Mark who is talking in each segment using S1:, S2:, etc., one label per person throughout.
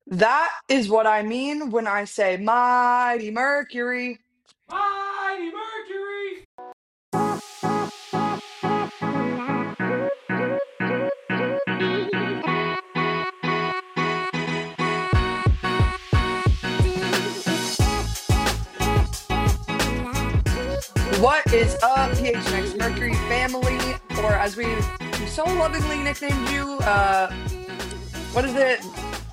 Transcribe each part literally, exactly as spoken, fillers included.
S1: That is what I mean when I say Mighty Mercury.
S2: Mighty Mercury!
S1: What is up, P H N X Mercury family, or as we so lovingly nicknamed you, uh, what is it?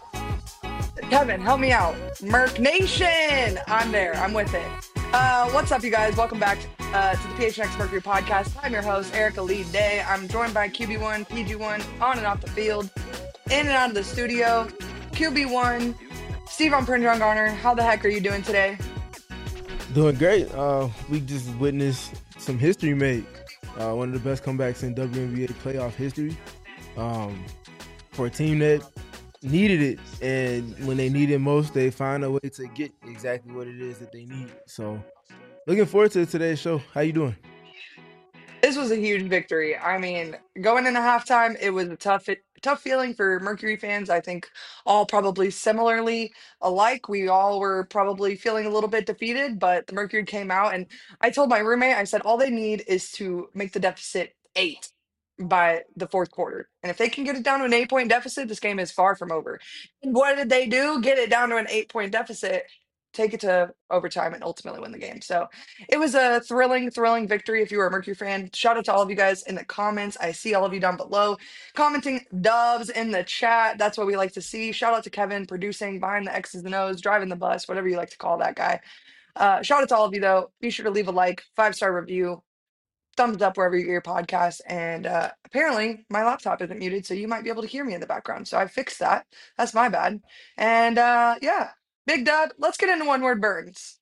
S1: Kevin, help me out. Merc Nation! I'm there. I'm with it. Uh, what's up, you guys? Welcome back uh, to the P H N X Mercury podcast. I'm your host, Erica Lee Day. I'm joined by Q B one, P G one, on and off the field, in and out of the studio. Q B one, Steve on Prinjon Garner. How the heck are you doing today?
S3: Doing great. Uh, we just witnessed some history made. Uh, one of the best comebacks in W N B A playoff history. Um, for a team that needed it, and when they need it most, they find a way to get exactly what it is that they need. So, looking forward to today's show. How you doing?
S1: This was a huge victory. I mean, going into halftime, it was a tough, tough feeling for Mercury fans. I think all probably similarly alike. We all were probably feeling a little bit defeated, but the Mercury came out, and I told my roommate, I said, all they need is to make the deficit eight by the fourth quarter. And if they can get it down to an eight point deficit, this game is far from over. And what did they do? Get it down to an eight point deficit, take it to overtime, and ultimately win the game. So, it was a thrilling, thrilling victory. If you were a Mercury fan, shout out to all of you guys in the comments. I see all of you down below commenting dubs in the chat. That's what we like to see. Shout out to Kevin producing behind the X's and O's, driving the bus, whatever you like to call that guy. Uh, shout out to all of you though. Be sure to leave a like, five star review, thumbs up wherever you hear your podcast. And uh, apparently my laptop isn't muted, so you might be able to hear me in the background. So I fixed that. That's my bad. And uh, yeah, big dub. Let's get into one word burns.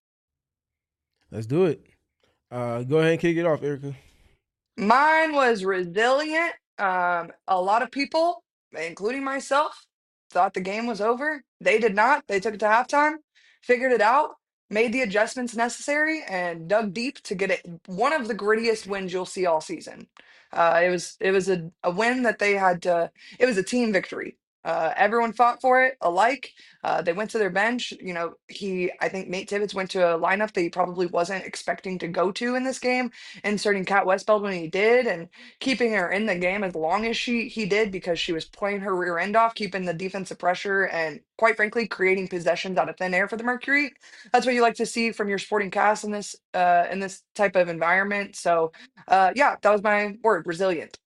S3: Let's do it. Uh, go ahead and kick it off, Erica.
S1: Mine was resilient. Um, a lot of people, including myself, thought the game was over. They did not. They took it to halftime, figured it out, made the adjustments necessary, and dug deep to get it one of the grittiest wins you'll see all season. Uh, it was it was a, a win that they had to. It was a team victory. Uh, everyone fought for it alike. Uh, they went to their bench. You know, he. I think Nate Tibbetts went to a lineup that he probably wasn't expecting to go to in this game, inserting Kat Westbeld when he did and keeping her in the game as long as she he did because she was playing her rear end off, keeping the defensive pressure and quite frankly creating possessions out of thin air for the Mercury. That's what you like to see from your sporting cast in this uh in this type of environment. So uh yeah, that was my word, resilient.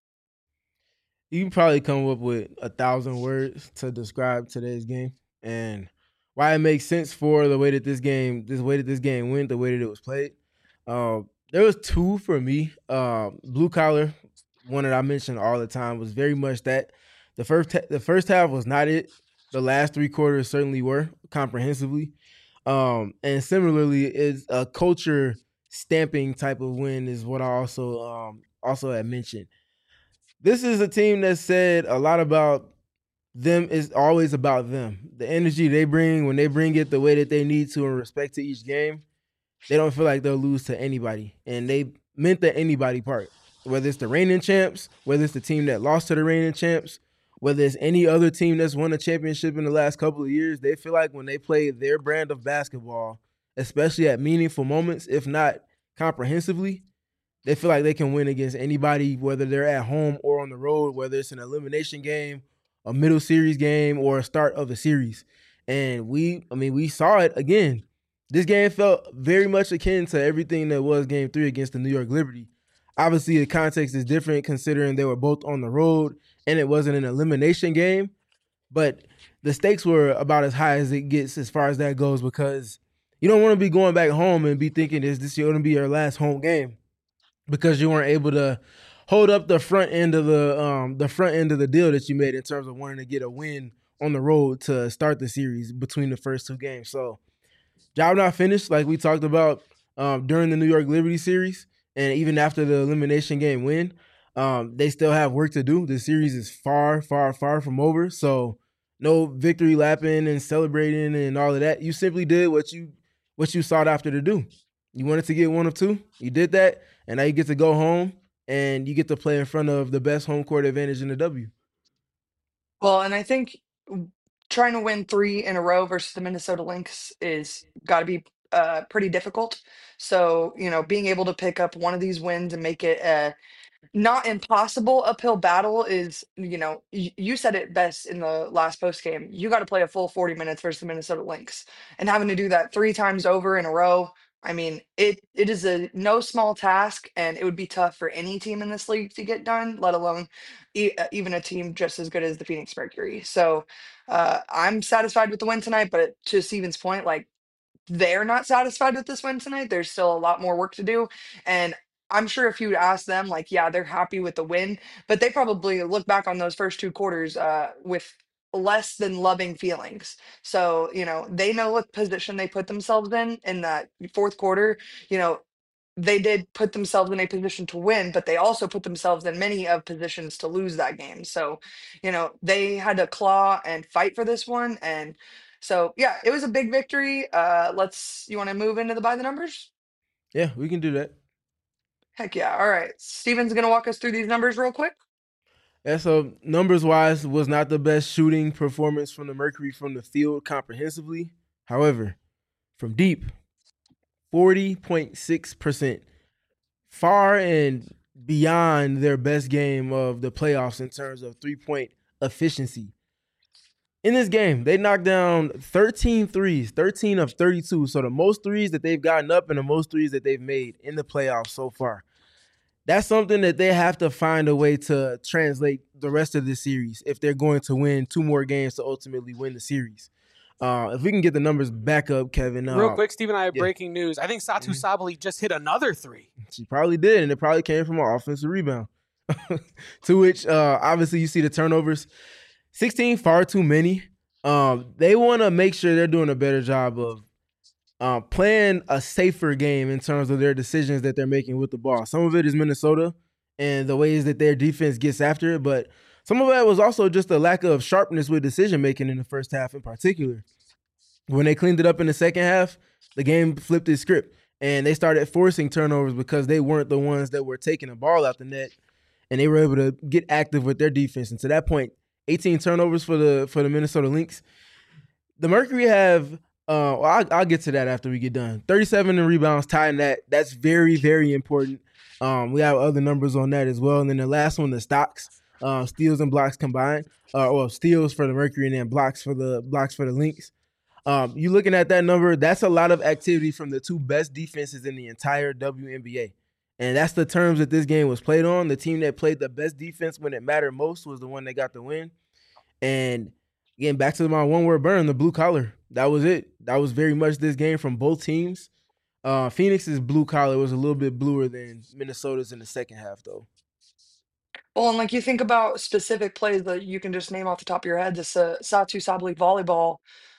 S3: You can probably come up with a thousand words to describe today's game and why it makes sense for the way that this game, this way that this game went, the way that it was played. Uh, there was two for me. Uh, blue collar, one that I mention all the time, was very much that. The first, ta- the first half was not it. The last three quarters certainly were comprehensively. Um, and similarly, is a culture stamping type of win is what I also um, also had mentioned. This is a team that said a lot about them is always about them. The energy they bring when they bring it the way that they need to in respect to each game, they don't feel like they'll lose to anybody. And they meant the anybody part. Whether it's the reigning champs, whether it's the team that lost to the reigning champs, whether it's any other team that's won a championship in the last couple of years, they feel like when they play their brand of basketball, especially at meaningful moments, if not comprehensively, they feel like they can win against anybody, whether they're at home or on the road, whether it's an elimination game, a middle series game, or a start of a series. And we, I mean, we saw it again. This game felt very much akin to everything that was game three against the New York Liberty. Obviously, the context is different considering they were both on the road and it wasn't an elimination game. But the stakes were about as high as it gets as far as that goes because you don't want to be going back home and be thinking, is this going to be your last home game? Because you weren't able to hold up the front end of the um, the front end of the deal that you made in terms of wanting to get a win on the road to start the series between the first two games. So job not finished, like we talked about um, during the New York Liberty series, and even after the elimination game win, um, they still have work to do. The series is far, far, far from over. So no victory lapping and celebrating and all of that. You simply did what you what you sought after to do. You wanted to get one of two. You did that, and now you get to go home and you get to play in front of the best home court advantage in the W.
S1: Well, and I think trying to win three in a row versus the Minnesota Lynx is got to be uh, pretty difficult. So, you know, being able to pick up one of these wins and make it a not impossible uphill battle is, you know, y- you said it best in the last post game. You got to play a full forty minutes versus the Minnesota Lynx, and having to do that three times over in a row. I mean, it it is a no small task, and it would be tough for any team in this league to get done, let alone e- uh, even a team just as good as the Phoenix Mercury. So, uh, I'm satisfied with the win tonight, but to Steven's point, like they're not satisfied with this win tonight. There's still a lot more work to do. And I'm sure if you ask them, like, yeah, they're happy with the win, but they probably look back on those first two quarters uh, with less than loving feelings. So, you know, they know what position they put themselves in in that fourth quarter. You know, they did put themselves in a position to win, but they also put themselves in many of positions to lose that game. So, you know, they had to claw and fight for this one. And so, yeah, it was a big victory. Uh, let's, you want to move into the by the numbers?
S3: Yeah, we can do that.
S1: Heck yeah. All right. Steven's going to walk us through these numbers real quick.
S3: Yeah, so numbers wise, was not the best shooting performance from the Mercury from the field comprehensively. However, from deep, forty point six percent, far and beyond their best game of the playoffs in terms of three point efficiency. In this game, they knocked down thirteen threes, thirteen of thirty-two. So the most threes that they've gotten up and the most threes that they've made in the playoffs so far. That's something that they have to find a way to translate the rest of the series if they're going to win two more games to ultimately win the series. Uh, if we can get the numbers back up, Kevin. Uh,
S2: Real quick, Steve and I have
S3: yeah.
S2: breaking news. I think Satu
S3: Mhm.
S2: Sabali just hit another three.
S3: She probably did, and it probably came from an offensive rebound. To which, uh, obviously, you see the turnovers. sixteen, far too many. Um, they want to make sure they're doing a better job of uh, playing a safer game in terms of their decisions that they're making with the ball. Some of it is Minnesota and the ways that their defense gets after it, but some of that was also just a lack of sharpness with decision making in the first half in particular. When they cleaned it up in the second half, the game flipped its script and they started forcing turnovers because they weren't the ones that were taking the ball out the net, and they were able to get active with their defense. And to that point, eighteen turnovers for the for the Minnesota Lynx. The Mercury have, uh, well, I'll, I'll get to that after we get done. thirty-seven in rebounds, tying that. That's very, very important. Um, we have other numbers on that as well. And then the last one, the stocks, uh, steals and blocks combined. Uh, well, steals for the Mercury and then blocks for the blocks for the Lynx. Um, you looking at that number, that's a lot of activity from the two best defenses in the entire W N B A. And that's the terms that this game was played on. The team that played the best defense when it mattered most was the one that got the win. And again, back to my one word burn, the blue collar. That was it. That was very much this game from both teams. Uh, Phoenix's blue collar was a little bit bluer than Minnesota's in the second half, though.
S1: Well, and like you think about specific plays that you can just name off the top of your head, this uh, Satu Sabli volleyball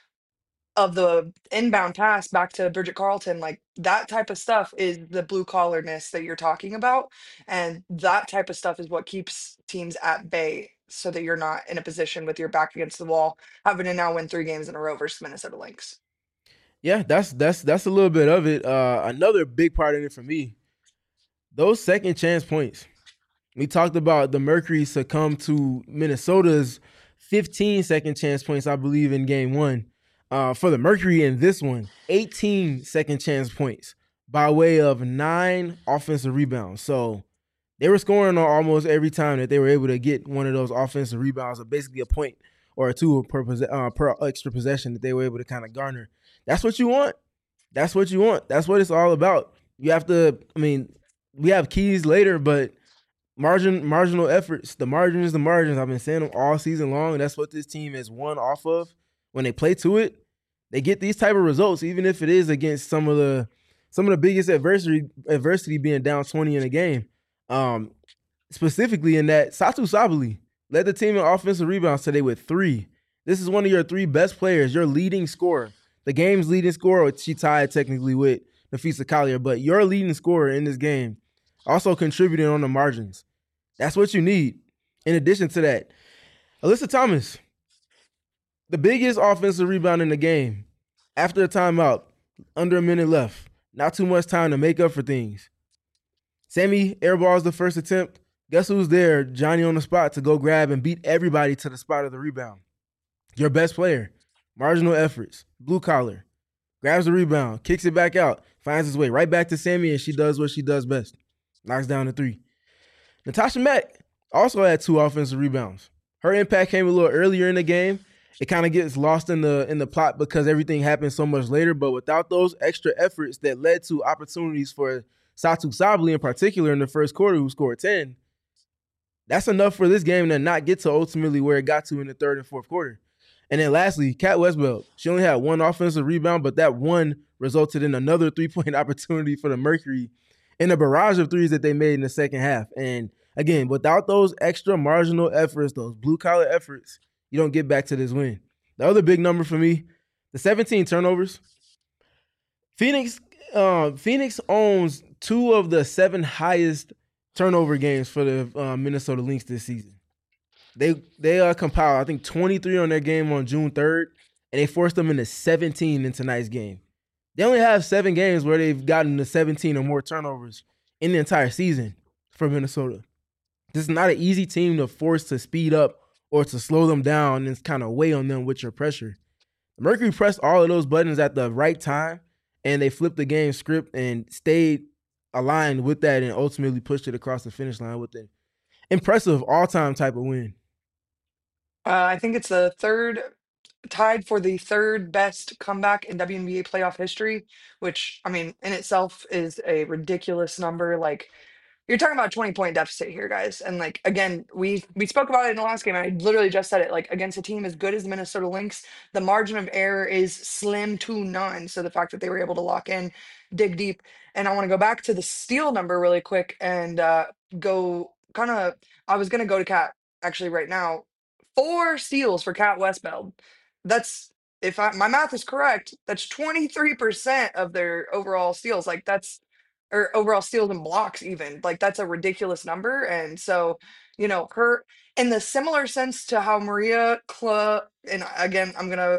S1: of the inbound pass back to Bridget Carlton, like that type of stuff is the blue collarness that you're talking about. And that type of stuff is what keeps teams at bay so that you're not in a position with your back against the wall, having to now win three games in a row versus Minnesota Lynx.
S3: Yeah, that's that's that's a little bit of it. Uh, another big part of it for me, those second chance points. We talked about the Mercury succumb to Minnesota's fifteen second chance points, I believe, in game one. Uh, for the Mercury in this one, eighteen second chance points by way of nine offensive rebounds. So they were scoring on almost every time that they were able to get one of those offensive rebounds, or basically a point or a two per, uh, per extra possession that they were able to kind of garner. That's what you want. That's what you want. That's what it's all about. You have to, I mean, we have keys later, but margin, marginal efforts, the margins, the margins. I've been saying them all season long. That's what this team has won off of. When they play to it, they get these type of results, even if it is against some of the some of the biggest adversity adversity being down twenty in a game. Um, specifically in that, Satu Sabali led the team in offensive rebounds today with three. This is one of your three best players, your leading scorer. The game's leading scorer, which she tied technically with Nafisa Collier, but your leading scorer in this game also contributing on the margins. That's what you need. In addition to that, Alyssa Thomas, the biggest offensive rebound in the game, after a timeout, under a minute left. Not too much time to make up for things. Sammy airballs the first attempt. Guess who's there? Johnny on the spot to go grab and beat everybody to the spot of the rebound. Your best player, marginal efforts, blue collar, grabs the rebound, kicks it back out, finds his way right back to Sammy, and she does what she does best, knocks down the three. Natasha Mack also had two offensive rebounds. Her impact came a little earlier in the game. It kind of gets lost in the in the plot because everything happened so much later. But without those extra efforts that led to opportunities for Satu Sabli in particular in the first quarter, who scored ten, that's enough for this game to not get to ultimately where it got to in the third and fourth quarter. And then lastly, Kat Westbeld. She only had one offensive rebound, but that one resulted in another three-point opportunity for the Mercury in a barrage of threes that they made in the second half. And again, without those extra marginal efforts, those blue-collar efforts, you don't get back to this win. The other big number for me, the seventeen turnovers. Phoenix, uh, Phoenix owns two of the seven highest turnover games for the uh, Minnesota Lynx this season. They they uh, compiled, I think, twenty-three on their game on June third, and they forced them into seventeen in tonight's game. They only have seven games where they've gotten to seventeen or more turnovers in the entire season for Minnesota. This is not an easy team to force to speed up or to slow them down and kind of weigh on them with your pressure. Mercury pressed all of those buttons at the right time, and they flipped the game script and stayed aligned with that and ultimately pushed it across the finish line with an impressive all-time type of win.
S1: Uh, I think it's the third, tied for the third best comeback in W N B A playoff history, which, I mean, in itself is a ridiculous number. Like, you're talking about a twenty point deficit here, guys. And like again, we we spoke about it in the last game. And I literally just said it. Like against a team as good as the Minnesota Lynx, the margin of error is slim to none. So the fact that they were able to lock in, dig deep, and I want to go back to the steal number really quick and uh, go kind of. I was gonna go to Cat actually right now. Four steals for Cat Westbeld. That's if I, my math is correct. That's twenty-three percent of their overall steals. Like that's or overall steals and blocks even like that's a ridiculous number. And so you know her in the similar sense to how Maria Kla and again I'm gonna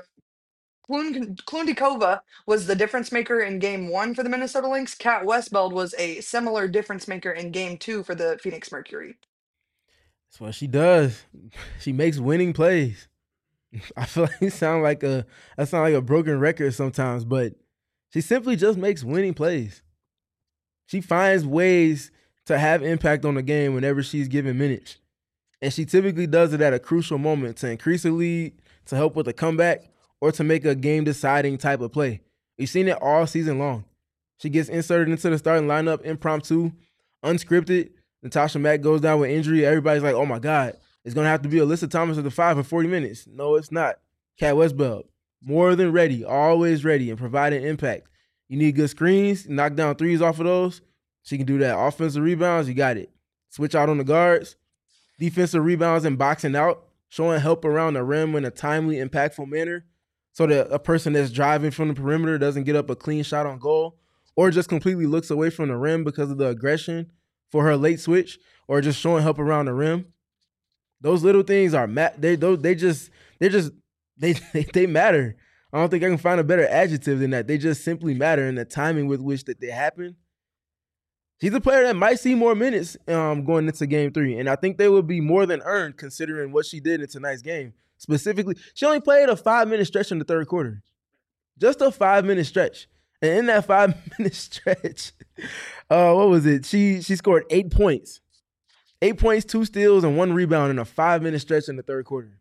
S1: Klun- Klundikova was the difference maker in game one for the Minnesota Lynx. Kat Westbeld was a similar difference maker in game two for the Phoenix Mercury.
S3: That's what she does. She makes winning plays. I feel like it sound like a that sound like a broken record sometimes, but she simply just makes winning plays. She finds ways to have impact on the game whenever she's given minutes. And she typically does it at a crucial moment to increase the lead, to help with a comeback, or to make a game-deciding type of play. We've seen it all season long. She gets inserted into the starting lineup impromptu, unscripted. Natasha Mack goes down with injury. Everybody's like, oh my God, it's going to have to be Alyssa Thomas at the five for forty minutes. No, it's not. Kat Westbeld, more than ready, always ready, and providing impact. You need good screens, knock down threes off of those. She can do that. Offensive rebounds, you got it. Switch out on the guards. Defensive rebounds and boxing out, showing help around the rim in a timely, impactful manner so that a person that's driving from the perimeter doesn't get up a clean shot on goal or just completely looks away from the rim because of the aggression for her late switch or just showing help around the rim. Those little things are ma- they those they just they're just they, they they matter. I don't think I can find a better adjective than that. They just simply matter in the timing with which that they happen. She's a player that might see more minutes um, going into game three, and I think they would be more than earned considering what she did in tonight's game. Specifically, she only played a five-minute stretch in the third quarter. Just a five-minute stretch. And in that five-minute stretch, uh, what was it? She she scored eight points. Eight points, two steals, and one rebound in a five-minute stretch in the third quarter.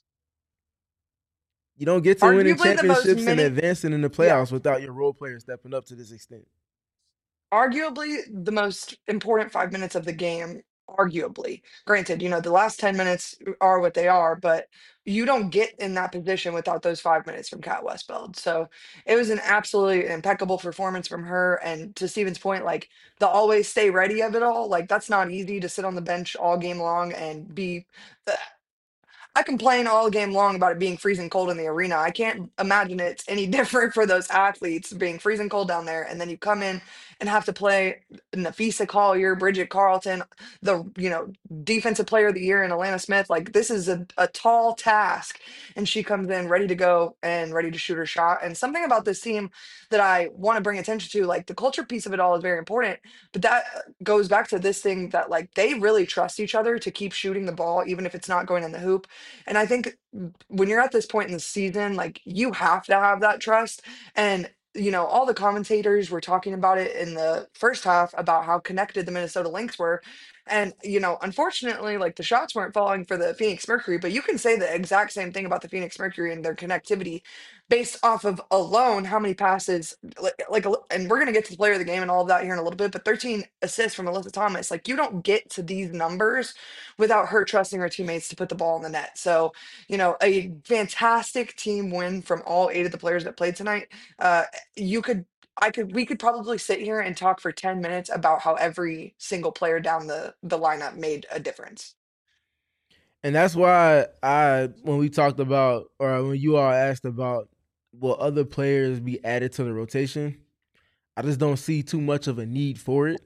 S3: You don't get to winning
S1: Arguably the most
S3: championships and
S1: mini
S3: advancing in the
S1: yeah.
S3: playoffs without your role players stepping up to this extent.
S1: Arguably the most important five minutes of the game. Arguably, granted, you know the last ten minutes are what they are, but you don't get in that position without those five minutes from Kat Westbeld. So it was an absolutely impeccable performance from her. And to Steven's point, like the always stay ready of it all, like that's not easy to sit on the bench all game long and be. I complain all game long about it being freezing cold in the arena. I can't imagine it's any different for those athletes being freezing cold down there. And then you come in and have to play Nafisa Collier, Bridget Carlton, the you know defensive player of the year in Alana Smith. Like this is a, a tall task. And she comes in ready to go and ready to shoot her shot. And something about this team that I want to bring attention to, like the culture piece of it all is very important. But that goes back to this thing that like they really trust each other to keep shooting the ball, even if it's not going in the hoop. And I think when you're at this point in the season, like you have to have that trust. And you know, all the commentators were talking about it in the first half about how connected the Minnesota Lynx were. And, you know, unfortunately, like the shots weren't falling for the Phoenix Mercury, but you can say the exact same thing about the Phoenix Mercury and their connectivity based off of alone how many passes, like, like and we're going to get to the player of the game and all of that here in a little bit, but thirteen assists from Alyssa Thomas. Like, you don't get to these numbers without her trusting her teammates to put the ball in the net. So, you know, a fantastic team win from all eight of the players that played tonight. Uh, you could I could we could probably sit here and talk for ten minutes about how every single player down the the lineup made a difference.
S3: And that's why I, when we talked about, or when you all asked about, will other players be added to the rotation, I just don't see too much of a need for it.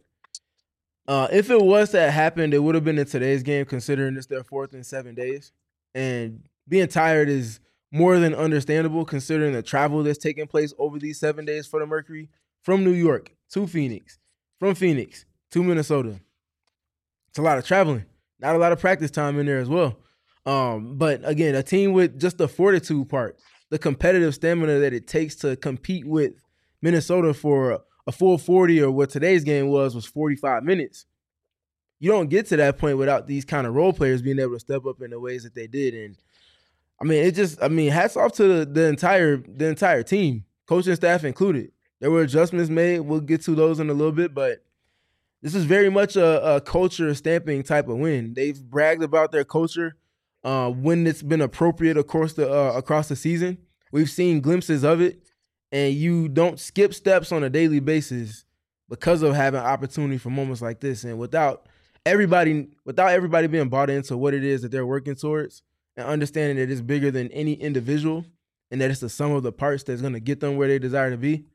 S3: Uh, if it was to happen, it would have been in today's game, considering it's their fourth in seven days. And being tired is more than understandable, considering the travel that's taking place over these seven days for the Mercury from New York to Phoenix, from Phoenix to Minnesota. It's a lot of traveling, not a lot of practice time in there as well. Um, but again, a team with just the fortitude part, the competitive stamina that it takes to compete with Minnesota for a full forty, or what today's game was, was forty-five minutes. You don't get to that point without these kind of role players being able to step up in the ways that they did. And I mean, it just, I mean, hats off to the, the entire, the entire team, coaching staff included. There were adjustments made. We'll get to those in a little bit, but this is very much a, a culture stamping type of win. They've bragged about their culture uh, when it's been appropriate across the uh, across the season. We've seen glimpses of it, and you don't skip steps on a daily basis because of having opportunity for moments like this. And without everybody, without everybody being bought into what it is that they're working towards, and understanding that it's bigger than any individual, and that it's the sum of the parts that's going to get them where they desire to be.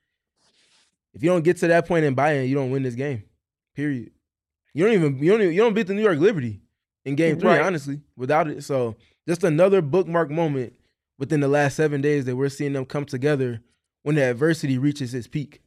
S3: If you don't get to that point in buy-in, you don't win this game. Period. You don't even you don't even, you don't beat the New York Liberty in game three,
S1: Right.
S3: honestly, without it. So just another bookmark moment within the last seven days that we're seeing them come together when the adversity reaches its peak.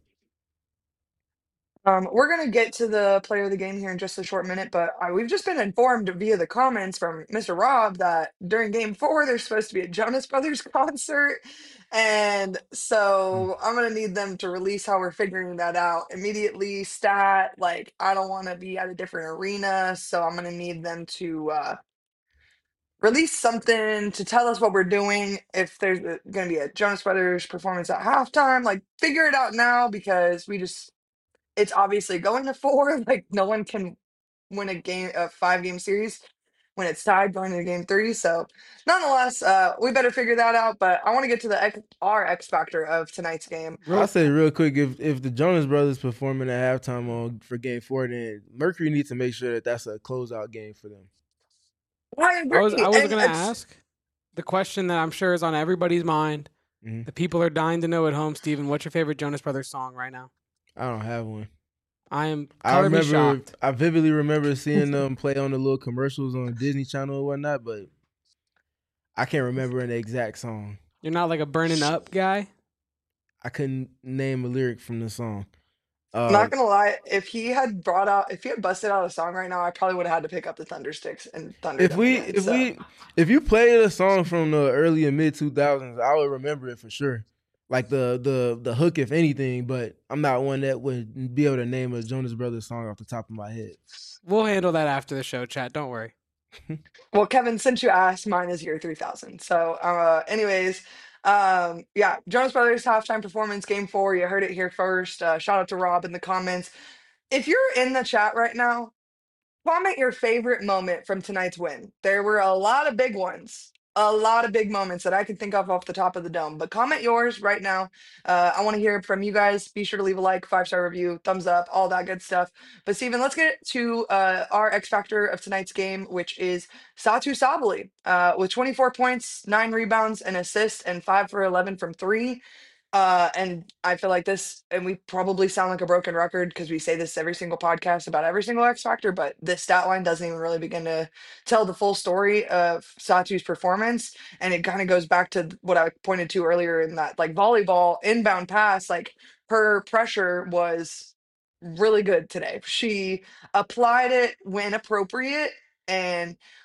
S1: Um, we're gonna get to the player of the game here in just a short minute, but uh, we've just been informed via the comments from Mister Rob that during Game Four there's supposed to be a Jonas Brothers concert, and so I'm gonna need them to release how we're figuring that out immediately. Stat, like I don't want to be at a different arena, so I'm gonna need them to uh, release something to tell us what we're doing. If there's going to be a Jonas Brothers performance at halftime, like figure it out now because we just it's obviously going to four. Like no one can win a game, a five game series when it's tied going into game three. So nonetheless, uh, we better figure that out. But I want to get to the X, our X factor of tonight's game.
S3: I'll say real quick, if if the Jonas Brothers performing at halftime on for Game Four, then Mercury needs to make sure that that's a closeout game for them.
S1: I agree.
S2: I was I was
S1: and
S2: gonna
S1: it's-
S2: ask the question that I'm sure is on everybody's mind.
S3: Mhm.
S2: The people are dying to know at home, Steven. What's your favorite Jonas Brothers song right now?
S3: I don't have one.
S2: I am
S3: I
S2: color me
S3: remember,
S2: shocked.
S3: I vividly remember seeing them play on the little commercials on Disney Channel and whatnot, but I can't remember an exact song.
S2: You're not like a burning up guy.
S3: I couldn't name a lyric from the song. Uh,
S1: I'm not gonna lie, if he had brought out, if he had busted out a song right now, I probably would have had to pick up the Thunder Sticks and Thunder.
S3: if
S1: Them
S3: we,
S1: again,
S3: if
S1: so.
S3: we, if you played a song from the early and mid two thousands, I would remember it for sure. Like the the the hook, if anything. But I'm not one that would be able to name a Jonas Brothers song off the top of my head.
S2: We'll handle that after the show, chat. Don't worry.
S1: Well, Kevin, since you asked, mine is year three thousand. So, uh, anyways, um, yeah, Jonas Brothers halftime performance, game four. You heard it here first. Uh, shout out to Rob in the comments. If you're in the chat right now, comment your favorite moment from tonight's win. There were a lot of big ones, a lot of big moments that I can think of off the top of the dome. But comment yours right now. Uh, I want to hear from you guys. Be sure to leave a like, five star review, thumbs up, all that good stuff. But Steven, let's get to uh, our X factor of tonight's game, which is Satu Sabali uh, with twenty-four points, nine rebounds, and assists, and five for eleven from three. Uh, and I feel like this, and we probably sound like a broken record because we say this every single podcast about every single X Factor, but this stat line doesn't even really begin to tell the full story of Satu's performance. And it kind of goes back to what I pointed to earlier in that like volleyball inbound pass, like her pressure was really good today. She applied it when appropriate. And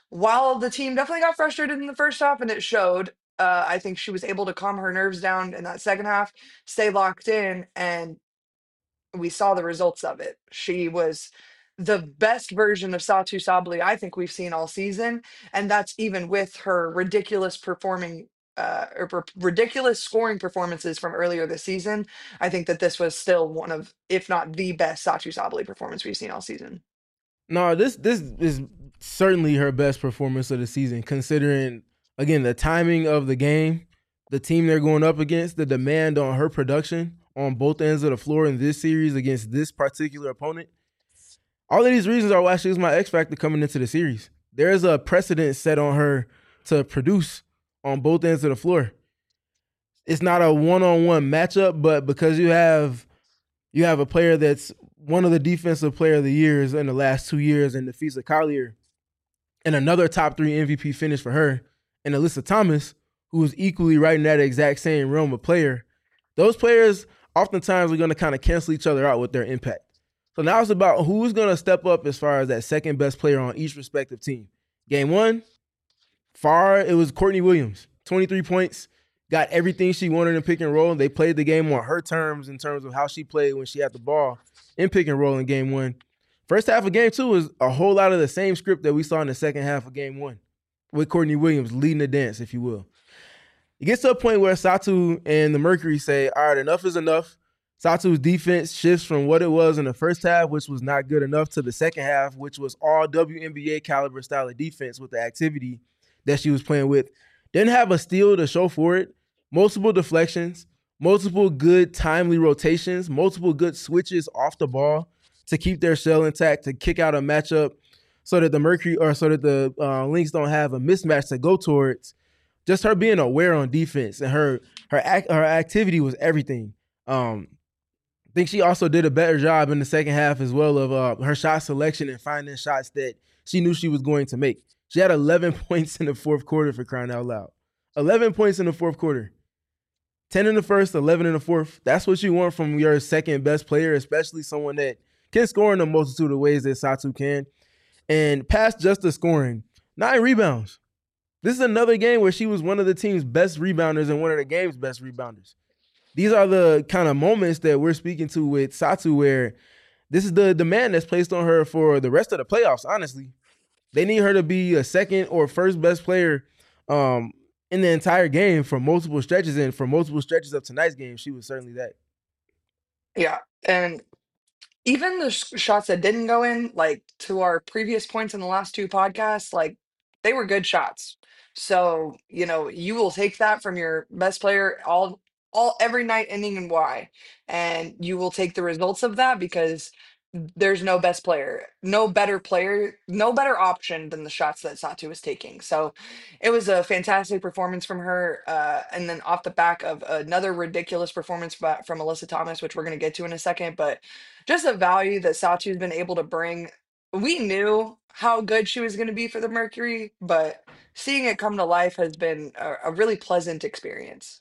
S1: while the team definitely got frustrated in the first half and it showed, uh, I think she was able to calm her nerves down in that second half, stay locked in, and we saw the results of it. She was the best version of Satu Sabli I think we've seen all season, and that's even with her ridiculous performing uh, or per- ridiculous scoring performances from earlier this season. I think that this was still one of, if not the best Satu Sabli performance we've seen all season.
S3: No, this this is certainly her best performance of the season, considering again the timing of the game, the team they're going up against, the demand on her production on both ends of the floor in this series against this particular opponent. All of these reasons are why she was my X factor coming into the series. There is a precedent set on her to produce on both ends of the floor. It's not a one-on-one matchup, but because you have you have a player that's one of the defensive player of the years in the last two years in Nafisa Collier, and another top three M V P finish for her, and Alyssa Thomas, who is equally right in that exact same realm of player. Those players oftentimes are going to kind of cancel each other out with their impact. So now it's about who's going to step up as far as that second best player on each respective team. Game one, far, it was Courtney Williams, twenty-three points, got everything she wanted in pick and roll. They played the game on her terms in terms of how she played when she had the ball in pick and roll in game one. First half of game two was a whole lot of the same script that we saw in the second half of game one, with Courtney Williams leading the dance, if you will. It gets to a point where Satu and the Mercury say, all right, enough is enough. Satu's defense shifts from what it was in the first half, which was not good enough, to the second half, which was all W N B A caliber style of defense with the activity that she was playing with. Didn't have a steal to show for it. Multiple deflections, multiple good timely rotations, multiple good switches off the ball to keep their shell intact, to kick out a matchup so that the Mercury or so that the uh, Lynx don't have a mismatch to go towards. Just her being aware on defense and her her act, her activity was everything. Um, I think she also did a better job in the second half as well of uh, her shot selection and finding shots that she knew she was going to make. She had eleven points in the fourth quarter, for crying out loud. eleven points in the fourth quarter. ten in the first, eleven in the fourth. That's what you want from your second best player, especially someone that can score in a multitude of ways that Satu can. And past just the scoring, nine rebounds. This is another game where she was one of the team's best rebounders and one of the game's best rebounders. These are the kind of moments that we're speaking to with Satu, where this is the demand that's placed on her for the rest of the playoffs, honestly. They need her to be a second or first best player um, in the entire game for multiple stretches, and for multiple stretches of tonight's game, she was certainly that.
S1: Yeah, and even the sh- shots that didn't go in, like to our previous points in the last two podcasts, like they were good shots. So, you know, you will take that from your best player all all every night ending in Y. And you will take the results of that because there's no best player, no better player, no better option than the shots that Satu was taking. So it was a fantastic performance from her. Uh, and then off the back of another ridiculous performance by, from Alyssa Thomas, which we're going to get to in a second, but just the value that Satu's been able to bring. We knew how good she was going to be for the Mercury, but seeing it come to life has been a, a really pleasant experience.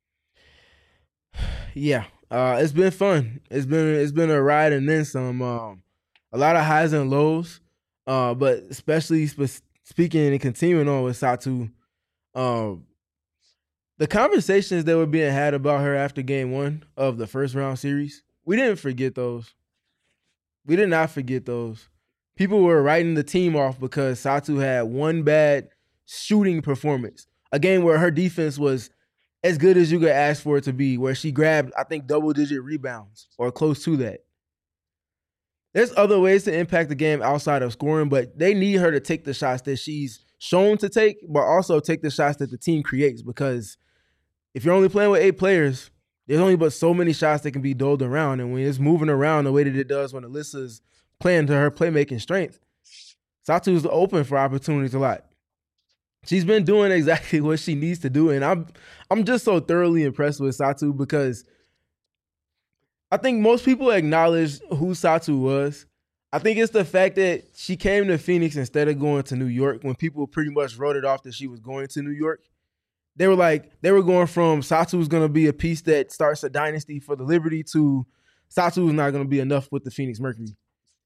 S3: Yeah, uh, it's been fun. It's been it's been a ride and then some. Um, a lot of highs and lows, uh, but especially sp- speaking and continuing on with Satu, um, the conversations that were being had about her after game one of the first round series, we didn't forget those. We did not forget those. People were writing the team off because Satu had one bad shooting performance, a game where her defense was as good as you could ask for it to be, where she grabbed, I think, double-digit rebounds or close to that. There's other ways to impact the game outside of scoring, but they need her to take the shots that she's shown to take, but also take the shots that the team creates, because if you're only playing with eight players, there's only but so many shots that can be doled around, and when it's moving around the way that it does when Alyssa's playing to her playmaking strength, Satu's open for opportunities a lot. She's been doing exactly what she needs to do, and I'm I'm just so thoroughly impressed with Satu, because I think most people acknowledge who Satu was. I think it's the fact that she came to Phoenix instead of going to New York, when people pretty much wrote it off that she was going to New York. They were like, they were going from Satu's going to be a piece that starts a dynasty for the Liberty to Satu's not going to be enough with the Phoenix Mercury.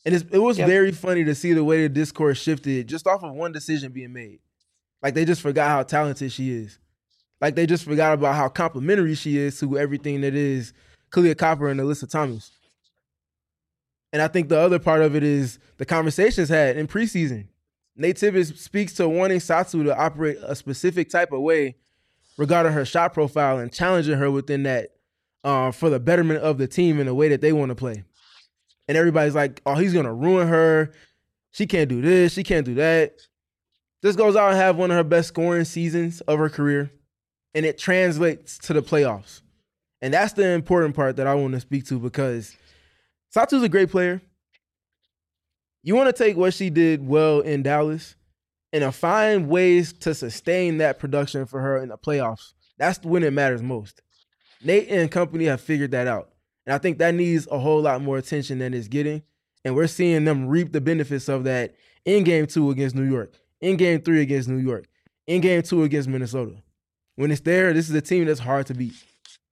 S3: And it's, it was
S1: Yep.
S3: very funny to see the way the discourse shifted just off of one decision being made. Like they just forgot how talented she is. Like they just forgot about how complimentary she is to everything that is Kalia Copper and Alyssa Thomas. And I think the other part of it is the conversations had in preseason. Nate Tibbetts speaks to wanting Satou to operate a specific type of way regarding her shot profile and challenging her within that uh, for the betterment of the team in a way that they want to play. And everybody's like, oh, he's going to ruin her. She can't do this. She can't do that. This goes out and have one of her best scoring seasons of her career. And it translates to the playoffs. And that's the important part that I want to speak to because Satou's a great player. You want to take what she did well in Dallas and find ways to sustain that production for her in the playoffs. That's when it matters most. Nate and company have figured that out. And I think that needs a whole lot more attention than it's getting. And we're seeing them reap the benefits of that in game two against New York, in game three against New York, in game two against Minnesota. When it's there, this is a team that's hard to beat.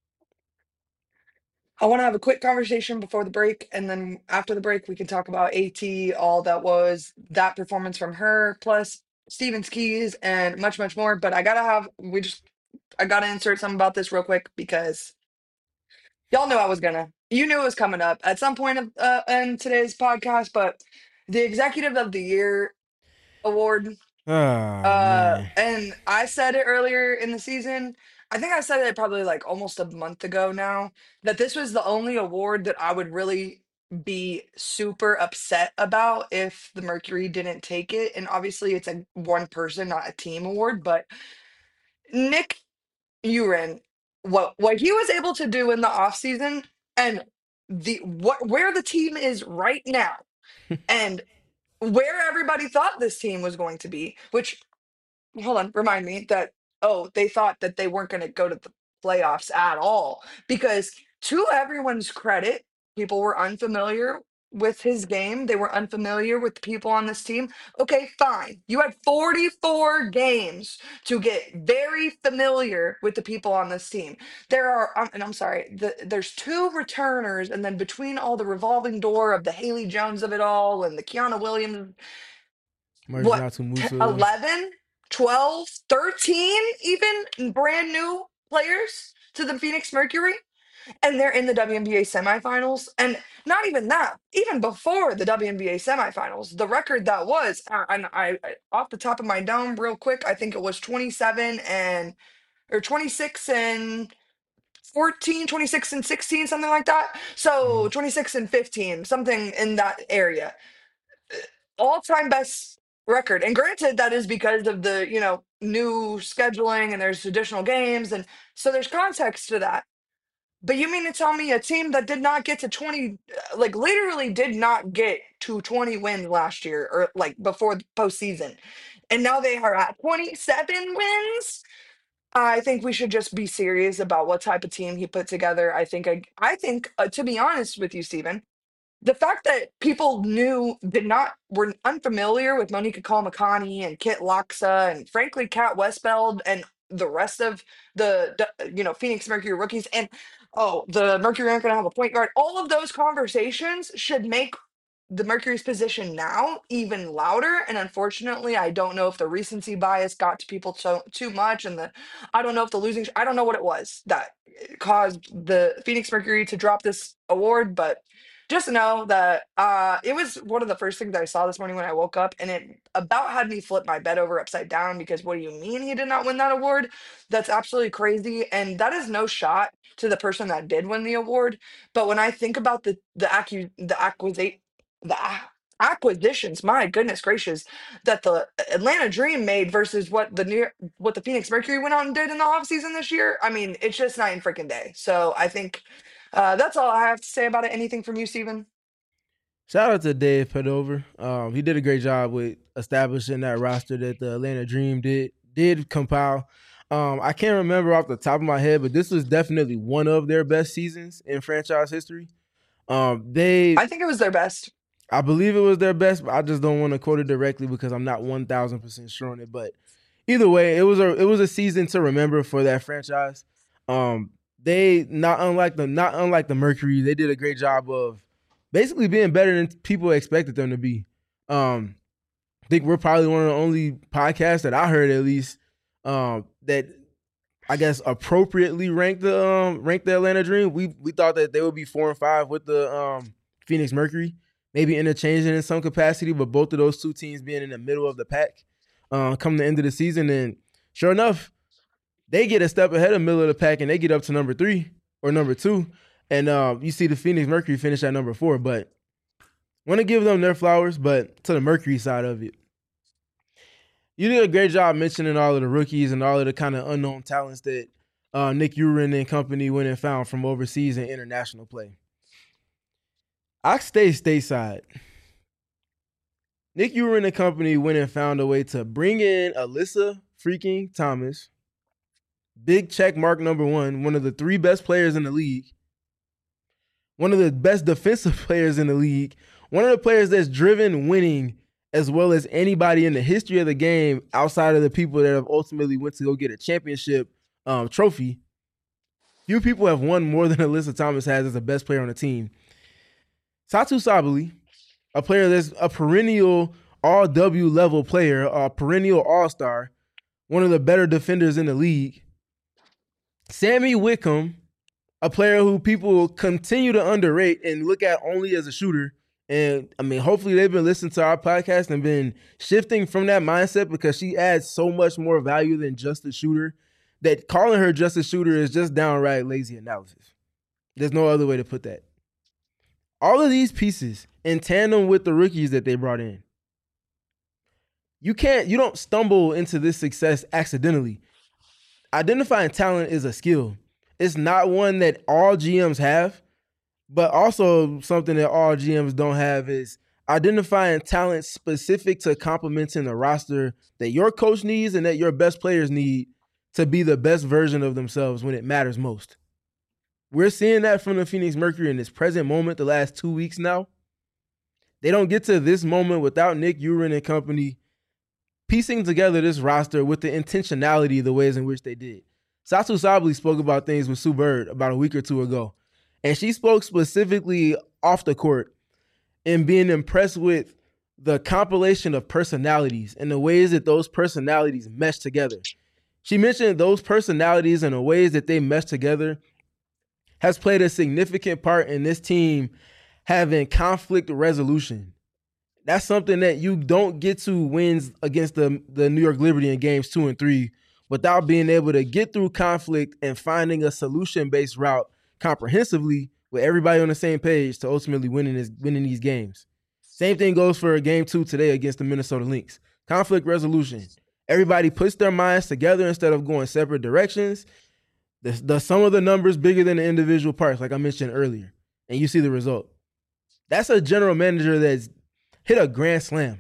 S1: I want to have a quick conversation before the break, and then after the break, we can talk about AT, all that was that performance from her, plus Stevens Keys, and much, much more. But I gotta have, we just, I gotta insert something about this real quick because y'all knew I was gonna. You knew it was coming up at some point of, uh, in today's podcast, but the Executive of the Year award.
S3: Oh,
S1: Uh,
S3: man.
S1: and I said it earlier in the season. I think I said it probably like almost a month ago now that this was the only award that I would really be super upset about if the Mercury didn't take it. And obviously, it's a one person, not a team award. But Nick Uren, what what he was able to do in the offseason and the what where the team is right now, and where everybody thought this team was going to be, which hold on, remind me that, oh, they thought that they weren't going to go to the playoffs at all because to everyone's credit, people were unfamiliar with his game. They were unfamiliar with the people on this team. Okay, fine. You had forty-four games to get very familiar with the people on this team. There are, um, and I'm sorry, the, there's two returners, and then between all the revolving door of the Haley Jones of it all and the Kiana Williams, what,
S3: Marginatu
S1: t-
S3: Musa.
S1: eleven, twelve, thirteen even brand new players to the Phoenix Mercury, and they're in the W N B A semifinals. And not even that, even before the W N B A semifinals, the record that was, uh, and I, I off the top of my dome real quick, I think it was twenty-seven and or twenty-six and fourteen, twenty-six and sixteen, something like that. So
S3: Mhm.
S1: twenty-six and fifteen, something in that area, all-time best record. And granted, that is because of the, you know, new scheduling and there's additional games. And so there's context to that. But you mean to tell me a team that did not get to twenty, uh, like literally did not get to twenty wins last year or like before the postseason, and now they are at twenty-seven wins? I think we should just be serious about what type of team he put together. I think, I, I think, uh, to be honest with you, Steven, the fact that people knew did not were unfamiliar with Monica Kalamakani and Kit Loxa and frankly Kat Westfeld and the rest of the, the you know Phoenix Mercury rookies, and oh, the Mercury aren't going to have a point guard. All of those conversations should make the Mercury's position now even louder. And unfortunately, I don't know if the recency bias got to people so too much, and the I don't know if the losing I don't know what it was that caused the Phoenix Mercury to drop this award, but just know that uh, it was one of the first things I saw this morning when I woke up, and it about had me flip my bed over upside down because what do you mean he did not win that award? That's absolutely crazy, and that is no shot to the person that did win the award. But when I think about the the accu- the acquisition the a- acquisitions, my goodness gracious, that the Atlanta Dream made versus what the New what the Phoenix Mercury went out and did in the offseason this year, I mean, it's just night and freaking day. So I think uh, that's all I have to say about it. Anything from you, Steven?
S3: Shout out to Dave Pedover. Um, he did a great job with establishing that roster that the Atlanta Dream did did compile. Um, I can't remember off the top of my head, but this was definitely one of their best seasons in franchise history. Um, they
S1: I think it was their best.
S3: I believe it was their best, but I just don't want to quote it directly because I'm not one thousand percent sure on it. But either way, it was a it was a season to remember for that franchise. Um, they not unlike the not unlike the Mercury, they did a great job of basically being better than people expected them to be. Um, I think we're probably one of the only podcasts that I heard, at least, um, that I guess appropriately ranked the um, ranked the Atlanta Dream. We we thought that they would be four and five with the um, Phoenix Mercury, maybe interchanging in some capacity, but both of those two teams being in the middle of the pack uh, come the end of the season. And sure enough, they get a step ahead of middle of the pack and they get up to number three or number two. And uh, you see the Phoenix Mercury finish at number four. But want to give them their flowers, but to the Mercury side of it, you did a great job mentioning all of the rookies and all of the kind of unknown talents that uh, Nick Uren and company went and found from overseas and international play. I stay stateside. Nick Uren and company went and found a way to bring in Alyssa freaking Thomas, big check mark number one, one of the three best players in the league, one of the best defensive players in the league, one of the players that's driven winning as well as anybody in the history of the game outside of the people that have ultimately went to go get a championship um, trophy. Few people have won more than Alyssa Thomas has as the best player on the team. Satu Sabali, a player that's a perennial all-W level player, a perennial all-star, one of the better defenders in the league. Sammy Wickham, a player who people continue to underrate and look at only as a shooter. And, I mean, hopefully they've been listening to our podcast and been shifting from that mindset because she adds so much more value than just a shooter that calling her just a shooter is just downright lazy analysis. There's no other way to put that. All of these pieces in tandem with the rookies that they brought in, you can't, you don't stumble into this success accidentally. Identifying talent is a skill. It's not one that all G Ms have, but also something that all G Ms don't have is identifying talent specific to complementing the roster that your coach needs and that your best players need to be the best version of themselves when it matters most. We're seeing that from the Phoenix Mercury in this present moment the last two weeks now. They don't get to this moment without Nick Uren and company piecing together this roster with the intentionality, the ways in which they did. Satu Sabali spoke about things with Sue Bird about a week or two ago. And she spoke specifically off the court and being impressed with the compilation of personalities and the ways that those personalities mesh together. She mentioned those personalities and the ways that they mesh together has played a significant part in this team having conflict resolution. That's something that you don't get to wins against the, the New York Liberty in games two and three without being able to get through conflict and finding a solution-based route comprehensively with everybody on the same page to ultimately winning this, winning these games. Same thing goes for game two today against the Minnesota Lynx. Conflict resolution. Everybody puts their minds together instead of going separate directions. The, the sum of the numbers bigger than the individual parts, like I mentioned earlier, and you see the result. That's a general manager that's hit a grand slam,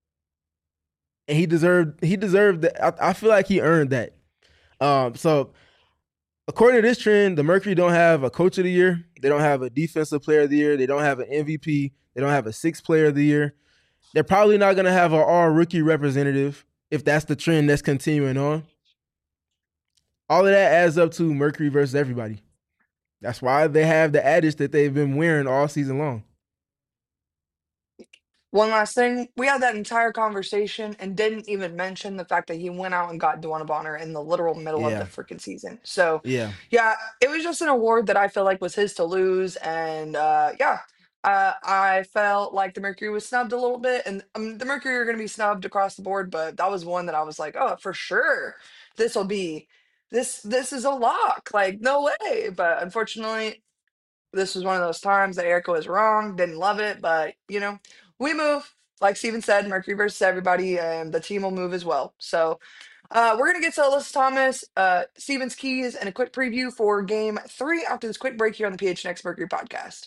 S3: and he deserved he deserved that. I, I feel like he earned that. Um, so, according to this trend, the Mercury don't have a coach of the year. They don't have a defensive player of the year. They don't have an M V P. They don't have a sixth player of the year. They're probably not going to have an all rookie representative if that's the trend that's continuing on. All of that adds up to Mercury versus everybody. That's why they have the adage that they've been wearing all season long.
S1: One last thing, we had that entire conversation and didn't even mention the fact that he went out and got Dwana Bonner in the literal middle of the
S3: Yeah.
S1: freaking season. So,
S3: Yeah.
S1: yeah, it was just an award that I feel like was his to lose. And uh, yeah, uh, I felt like the Mercury was snubbed a little bit. And um, the Mercury are going to be snubbed across the board, but that was one that I was like, oh, for sure, this will be, this, this is a lock. Like, no way. But unfortunately, this was one of those times that Erica was wrong, didn't love it, but you know, we move. Like Steven said, Mercury versus everybody, and the team will move as well. So uh, we're gonna get to Alyssa Thomas, uh, Steven's keys, and a quick preview for game three after this quick break here on the P H N X Mercury podcast.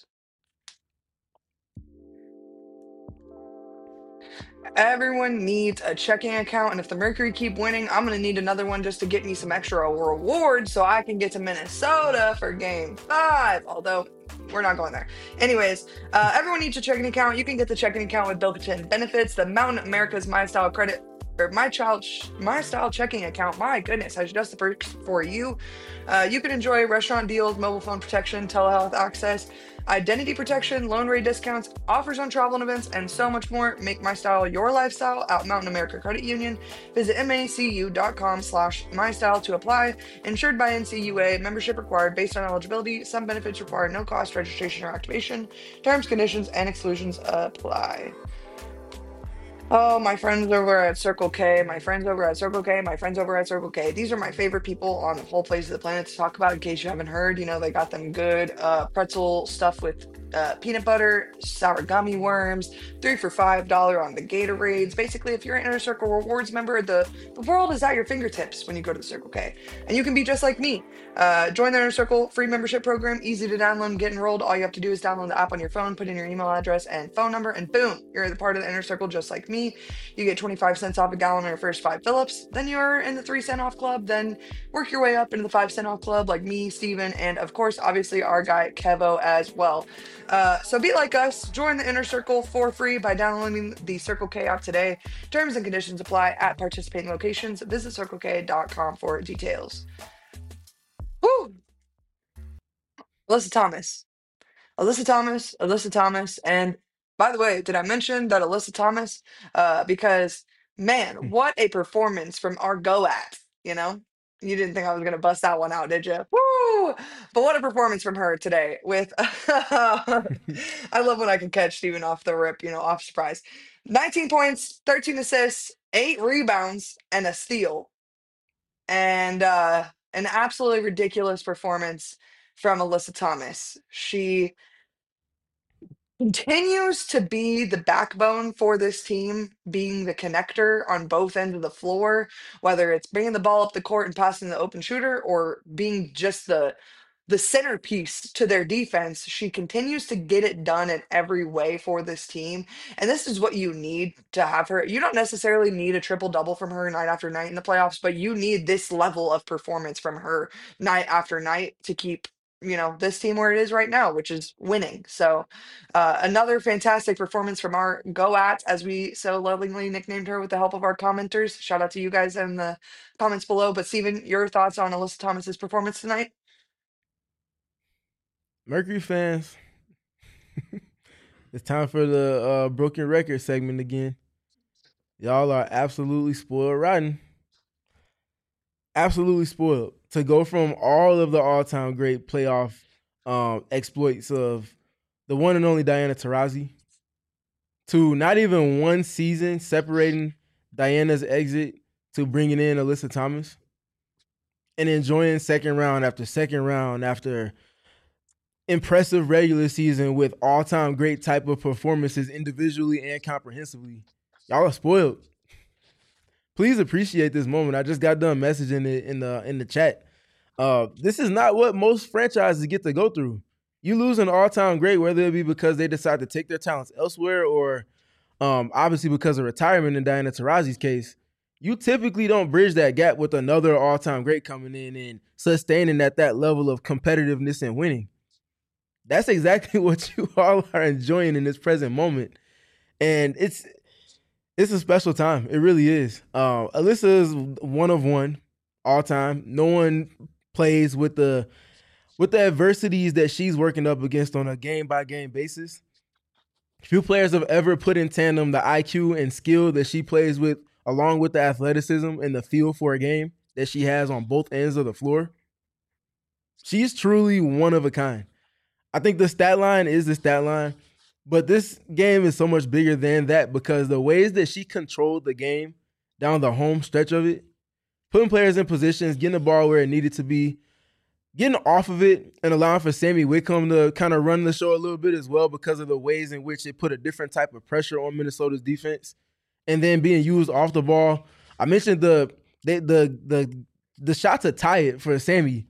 S1: Everyone needs a checking account, and if the Mercury keep winning, I'm gonna need another one just to get me some extra rewards so I can get to Minnesota for game five. Although we're not going there. Anyways, uh, everyone needs a checking account. You can get the checking account with Billiken Benefits, the Mountain America's My Style credit or my child my style checking account, my goodness, has just the perks for you. Uh, you can enjoy restaurant deals, mobile phone protection, telehealth access, identity protection, loan rate discounts, offers on travel and events, and so much more. Make my style your lifestyle at Mountain America Credit Union. Visit macu.com slash my style to apply. Insured by N C U A. Membership required based on eligibility. Some benefits require no cost registration or activation. Terms, conditions, and exclusions apply. Oh, my friends over at Circle K, my friends over at Circle K, my friends over at Circle K. These are my favorite people on the whole face of the planet to talk about. In case you haven't heard, you know, they got them good uh, pretzel stuff with uh, peanut butter, sour gummy worms, three for five dollar on the Gatorades. Basically, if you're an Inner Circle Rewards member, the, the world is at your fingertips when you go to the Circle K. And you can be just like me. Uh, join the Inner Circle free membership program, easy to download and get enrolled. All you have to do is download the app on your phone, put in your email address and phone number, and boom, you're the part of the Inner Circle just like me. You get twenty-five cents off a gallon on your first five fill-ups. Then you're in the three cent off club. Then work your way up into the five cent off club like me, Steven, and of course, obviously our guy Kevo as well. Uh, so be like us. Join the Inner Circle for free by downloading the Circle K app today. Terms and conditions apply at participating locations. Visit circle k dot com for details. Woo! Alyssa Thomas. Alyssa Thomas, Alyssa Thomas, and by the way, did I mention that Alyssa Thomas? Uh, because man, what a performance from our go at, you know? You didn't think I was gonna bust that one out, did you? Woo! But what a performance from her today with I love when I can catch Steven off the rip, you know, off surprise. nineteen points, thirteen assists, eight rebounds, and a steal. And uh an absolutely ridiculous performance from Alyssa Thomas. She continues to be the backbone for this team, being the connector on both ends of the floor, whether it's bringing the ball up the court and passing the open shooter or being just the the centerpiece to their defense. She continues to get it done in every way for this team. And this is what you need to have her. You don't necessarily need a triple double from her night after night in the playoffs, but you need this level of performance from her night after night to keep, you know, this team where it is right now, which is winning. So uh, another fantastic performance from our go at, as we so lovingly nicknamed her with the help of our commenters. Shout out to you guys in the comments below. But Steven, your thoughts on Alyssa Thomas's performance tonight?
S3: Mercury fans, it's time for the uh, broken record segment again. Y'all are absolutely spoiled rotten. Absolutely spoiled. To go from all of the all-time great playoff um, exploits of the one and only Diana Taurasi to not even one season separating Diana's exit to bringing in Alyssa Thomas and enjoying second round after second round after impressive regular season with all-time great type of performances individually and comprehensively. Y'all are spoiled. Please appreciate this moment. I just got done messaging it in the in the chat. Uh, this is not what most franchises get to go through. You lose an all-time great, whether it be because they decide to take their talents elsewhere or um, obviously because of retirement in Diana Taurasi's case. You typically don't bridge that gap with another all-time great coming in and sustaining at that level of competitiveness and winning. That's exactly what you all are enjoying in this present moment. And it's it's a special time. It really is. Uh, Alyssa is one of one all time. No one plays with the with the adversities that she's working up against on a game-by-game basis. Few players have ever put in tandem the I Q and skill that she plays with, along with the athleticism and the feel for a game that she has on both ends of the floor. She's truly one of a kind. I think the stat line is the stat line, but this game is so much bigger than that because the ways that she controlled the game down the home stretch of it, putting players in positions, getting the ball where it needed to be, getting off of it and allowing for Sammy Whitcomb to kind of run the show a little bit as well because of the ways in which it put a different type of pressure on Minnesota's defense, and then being used off the ball. I mentioned the the the the, the shot to tie it for Sammy.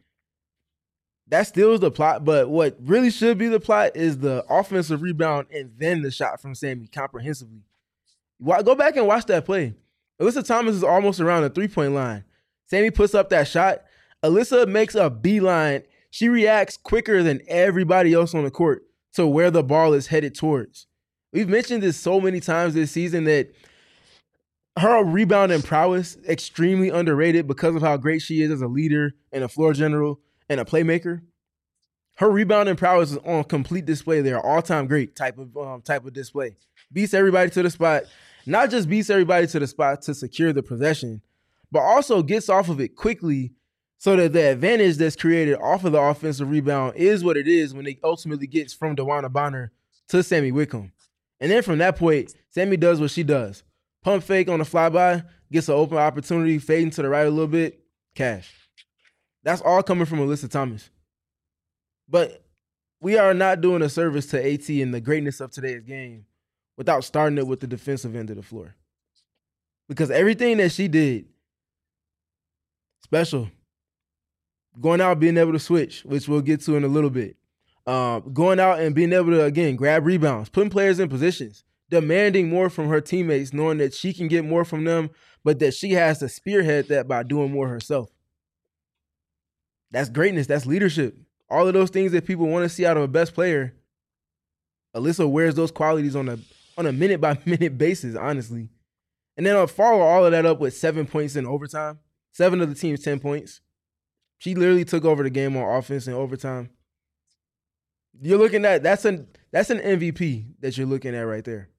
S3: That still is the plot, but what really should be the plot is the offensive rebound and then the shot from Sammy comprehensively. Go back and watch that play. Alyssa Thomas is almost around the three-point line. Sammy puts up that shot. Alyssa makes a beeline. She reacts quicker than everybody else on the court to where the ball is headed towards. We've mentioned this so many times this season that her rebounding prowess extremely underrated because of how great she is as a leader and a floor general and a playmaker. Her rebounding prowess is on complete display there, all time great type of um, type of display. Beats everybody to the spot, not just beats everybody to the spot to secure the possession, but also gets off of it quickly so that the advantage that's created off of the offensive rebound is what it is when it ultimately gets from DeWanna Bonner to Sammy Whitcomb. And then from that point, Sammy does what she does. Pump fake on the flyby, gets an open opportunity, fading to the right a little bit, cash. That's all coming from Alyssa Thomas. But we are not doing a service to AT and the greatness of today's game without starting it with the defensive end of the floor. Because everything that she did, special. Going out, being able to switch, which we'll get to in a little bit. Uh, going out and being able to, again, grab rebounds, putting players in positions, demanding more from her teammates, knowing that she can get more from them, but that she has to spearhead that by doing more herself. That's greatness. That's leadership. All of those things that people want to see out of a best player, Alyssa wears those qualities on a on a minute by minute basis, honestly. And then I'll follow all of that up with seven points in overtime. Seven of the team's ten points. She literally took over the game on offense in overtime. You're looking at that's an that's an M V P that you're looking at right there.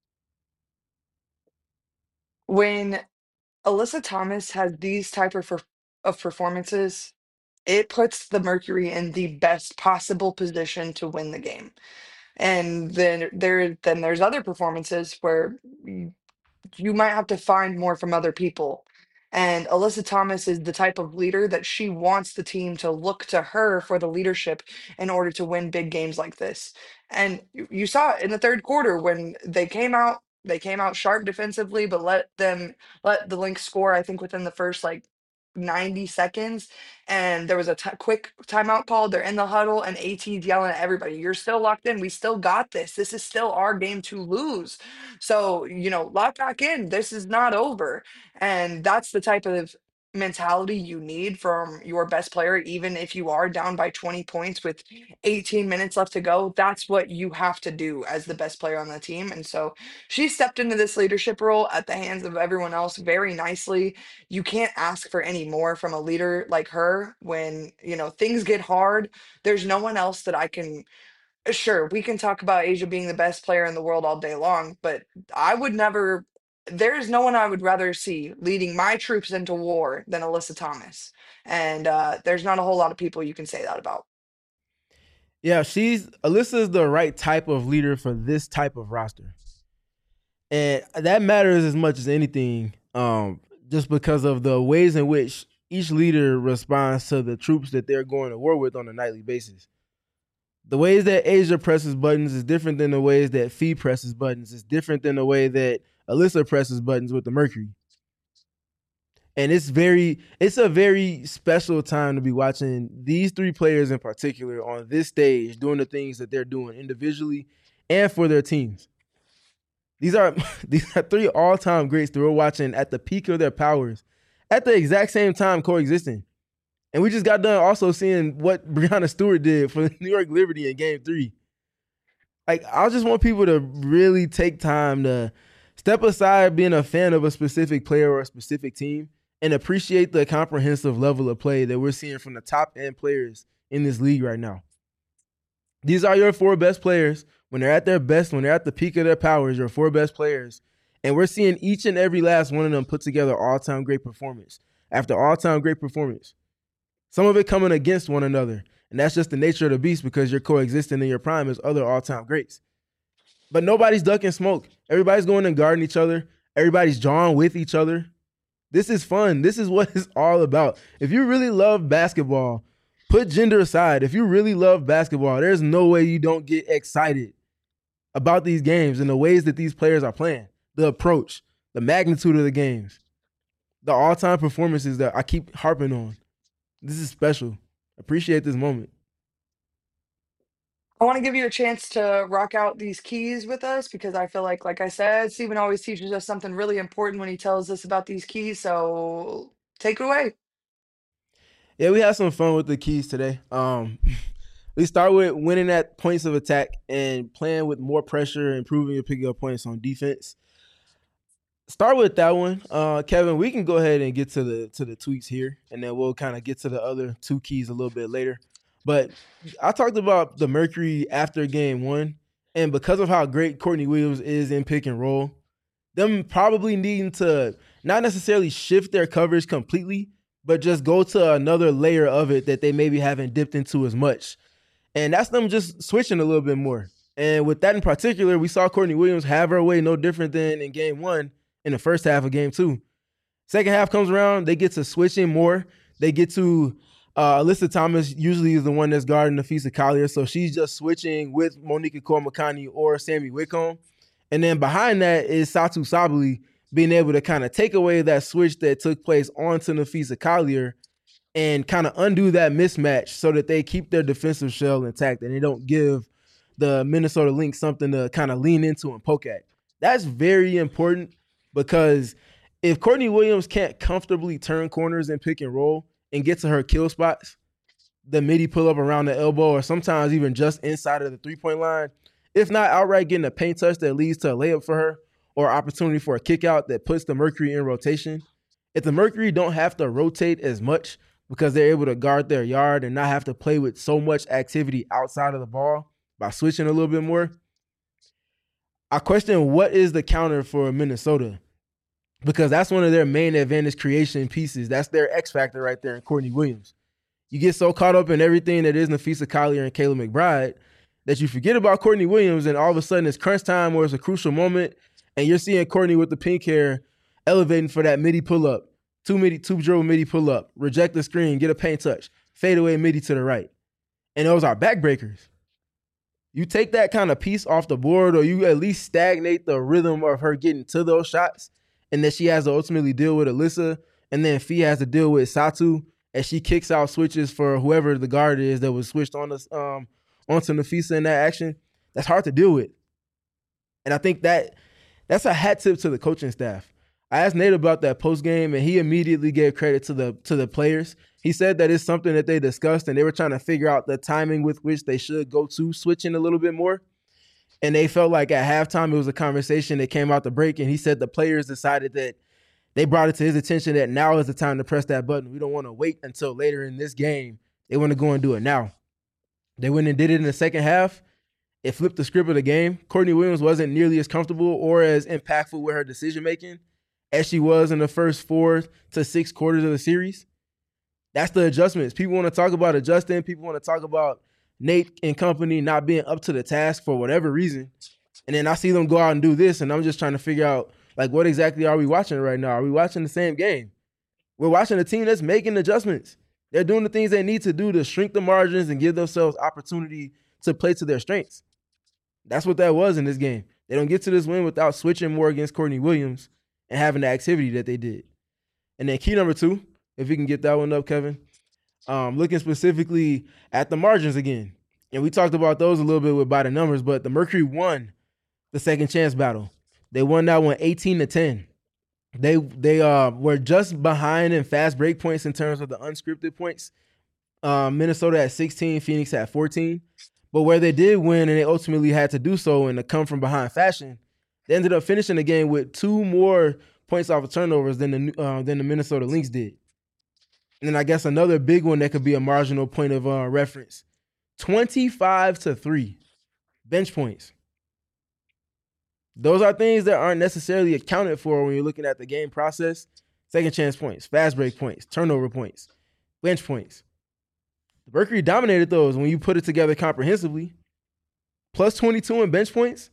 S1: When Alyssa Thomas has these type of per- of performances, it puts the Mercury in the best possible position to win the game. And then there then there's other performances where you, you might have to find more from other people. And Alyssa Thomas is the type of leader that she wants the team to look to her for the leadership in order to win big games like this. And you you saw it in the third quarter when they came out, they came out sharp defensively, but let them let the Lynx score, I think, within the first like ninety seconds. And there was a t- quick timeout called. They're in the huddle, and AT's yelling at everybody, "You're still locked in. We still got this. This is still our game to lose. So, you know, lock back in. This is not over." And that's the type of mentality you need from your best player, even if you are down by twenty points with eighteen minutes left to go. That's what you have to do as the best player on the team. And so she stepped into this leadership role at the hands of everyone else very nicely. You can't ask for any more from a leader like her when, you know, things get hard. There's no one else that I can sure, we can talk about Asia being the best player in the world all day long, but I would never there is no one I would rather see leading my troops into war than Alyssa Thomas. And uh, there's not a whole lot of people you can say that about.
S3: Yeah, she's Alyssa is the right type of leader for this type of roster. And that matters as much as anything, um, just because of the ways in which each leader responds to the troops that they're going to war with on a nightly basis. The ways that Asia presses buttons is different than the ways that Fee presses buttons. It's different than the way that Alyssa presses buttons with the Mercury. And it's very, it's a very special time to be watching these three players in particular on this stage doing the things that they're doing individually and for their teams. These are these are three all-time greats that we're watching at the peak of their powers at the exact same time coexisting. And we just got done also seeing what Breanna Stewart did for the New York Liberty in game three. Like, I just want people to really take time to step aside being a fan of a specific player or a specific team and appreciate the comprehensive level of play that we're seeing from the top end players in this league right now. These are your four best players. When they're at their best, when they're at the peak of their powers, your four best players. And we're seeing each and every last one of them put together all-time great performance after all-time great performance. Some of it coming against one another. And that's just the nature of the beast because you're coexisting in your prime as other all-time greats. But nobody's ducking smoke. Everybody's going and guarding each other. Everybody's drawing with each other. This is fun. This is what it's all about. If you really love basketball, put gender aside. If you really love basketball, there's no way you don't get excited about these games and the ways that these players are playing, the approach, the magnitude of the games, the all-time performances that I keep harping on. This is special. Appreciate this moment.
S1: I want to give you a chance to rock out these keys with us because I feel like, like I said, Stephen always teaches us something really important when he tells us about these keys. So take it away.
S3: Yeah, we had some fun with the keys today. Um, we start with winning at points of attack and playing with more pressure, improving your picking up points on defense. Start with that one, uh, Kevin. We can go ahead and get to the to the tweets here, and then we'll kind of get to the other two keys a little bit later. But I talked about the Mercury after game one, and because of how great Courtney Williams is in pick and roll, them probably needing to not necessarily shift their coverage completely, but just go to another layer of it that they maybe haven't dipped into as much. And that's them just switching a little bit more. And with that in particular, we saw Courtney Williams have her way no different than in game one in the first half of game two. Second half comes around, they get to switching more. They get to uh, Alyssa Thomas usually is the one that's guarding Nafisa Collier, so she's just switching with Monika Kormakani or Sammy Whitcomb. And then behind that is Satu Sabali being able to kind of take away that switch that took place onto Nafisa Collier and kind of undo that mismatch so that they keep their defensive shell intact and they don't give the Minnesota Lynx something to kind of lean into and poke at. That's very important because if Courtney Williams can't comfortably turn corners and pick and roll and get to her kill spots, the midi pull up around the elbow or sometimes even just inside of the three-point line, if not outright getting a paint touch that leads to a layup for her or opportunity for a kick out that puts the Mercury in rotation, if the Mercury don't have to rotate as much because they're able to guard their yard and not have to play with so much activity outside of the ball by switching a little bit more, I question what is the counter for Minnesota, because that's one of their main advantage creation pieces. That's their X factor right there in Courtney Williams. You get so caught up in everything that is Nafisa Collier and Kayla McBride that you forget about Courtney Williams, and all of a sudden it's crunch time or it's a crucial moment, and you're seeing Courtney with the pink hair elevating for that midi pull-up, two midi, two dribble midi pull-up, reject the screen, get a paint touch, fade away midi to the right. And those are backbreakers. You take that kind of piece off the board, or you at least stagnate the rhythm of her getting to those shots, and then she has to ultimately deal with Alyssa, and then Fee has to deal with Satu as she kicks out switches for whoever the guard is that was switched on us um, onto Nafisa in that action. That's hard to deal with. And I think that that's a hat tip to the coaching staff. I asked Nate about that post game, and he immediately gave credit to the to the players. He said that it's something that they discussed, and they were trying to figure out the timing with which they should go to switching a little bit more. And they felt like at halftime it was a conversation that came out the break, and he said the players decided that they brought it to his attention that now is the time to press that button. We don't want to wait until later in this game. They want to go and do it now. They went and did it in the second half. It flipped the script of the game. Courtney Williams wasn't nearly as comfortable or as impactful with her decision-making as she was in the first four to six quarters of the series. That's the adjustments. People want to talk about adjusting. People want to talk about Nate and company not being up to the task for whatever reason. And then I see them go out and do this, and I'm just trying to figure out, like, what exactly are we watching right now? Are we watching the same game? We're watching a team that's making adjustments. They're doing the things they need to do to shrink the margins and give themselves opportunity to play to their strengths. That's what that was in this game. They don't get to this win without switching more against Courtney Williams and having the activity that they did. And then key number two, if you can get that one up, Kevin, um, looking specifically at the margins again. And we talked about those a little bit with by the numbers, but the Mercury won the second chance battle. They won that one eighteen to ten. They they uh, were just behind in fast break points in terms of the unscripted points. Uh, Minnesota at sixteen, Phoenix at fourteen. But where they did win, and they ultimately had to do so in a come from behind fashion, they ended up finishing the game with two more points off of turnovers than the uh, than the Minnesota Lynx did. And then I guess another big one that could be a marginal point of uh, reference: twenty-five to three bench points. Those are things that aren't necessarily accounted for when you're looking at the game process. Second chance points, fast break points, turnover points, bench points. The Mercury dominated those when you put it together comprehensively. Plus twenty-two in bench points,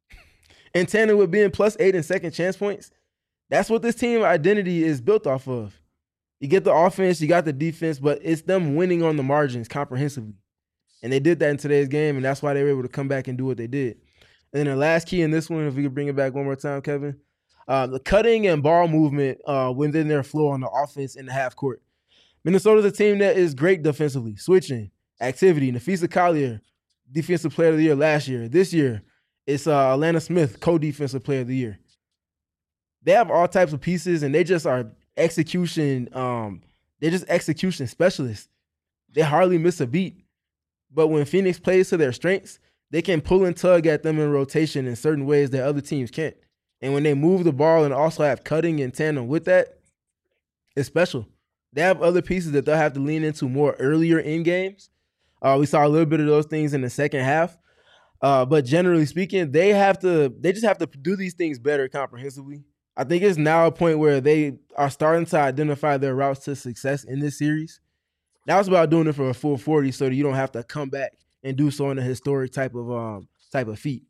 S3: in tandem with being plus eight in second chance points. That's what this team identity is built off of. You get the offense, you got the defense, but it's them winning on the margins comprehensively. And they did that in today's game, and that's why they were able to come back and do what they did. And then the last key in this one, if we could bring it back one more time, Kevin, uh, the cutting and ball movement uh, within their flow on the offense in the half court. Minnesota's a team that is great defensively, switching, activity. Nafisa Collier, defensive player of the year last year. This year, it's uh, Alana Smith, co-defensive player of the year. They have all types of pieces, and they just are execution. Um, they're just execution specialists. They hardly miss a beat. But when Phoenix plays to their strengths, they can pull and tug at them in rotation in certain ways that other teams can't. And when they move the ball and also have cutting in tandem with that, it's special. They have other pieces that they'll have to lean into more earlier in games. Uh, we saw a little bit of those things in the second half. Uh, but generally speaking, they have to they just have to do these things better comprehensively. I think it's now a point where they are starting to identify their routes to success in this series. Now it's about doing it for a full forty so that you don't have to come back and do so in a historic type of um type of feat.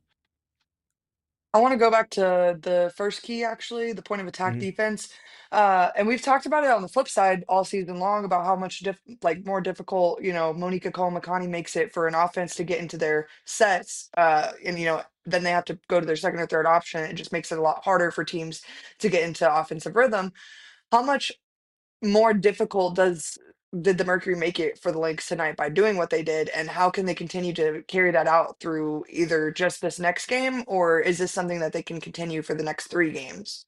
S1: I want to go back to the first key, actually, the point of attack
S3: Mhm.
S1: defense. Uh, and we've talked about it on the flip side all season long about how much diff- like more difficult, you know, Monica Cole makes it for an offense to get into their sets. Uh, and you know, then they have to go to their second or third option. It just makes it a lot harder for teams to get into offensive rhythm. How much more difficult does did the Mercury make it for the Lynx tonight by doing what they did, and how can they continue to carry that out through either just this next game, or is this something that they can continue for the next three games?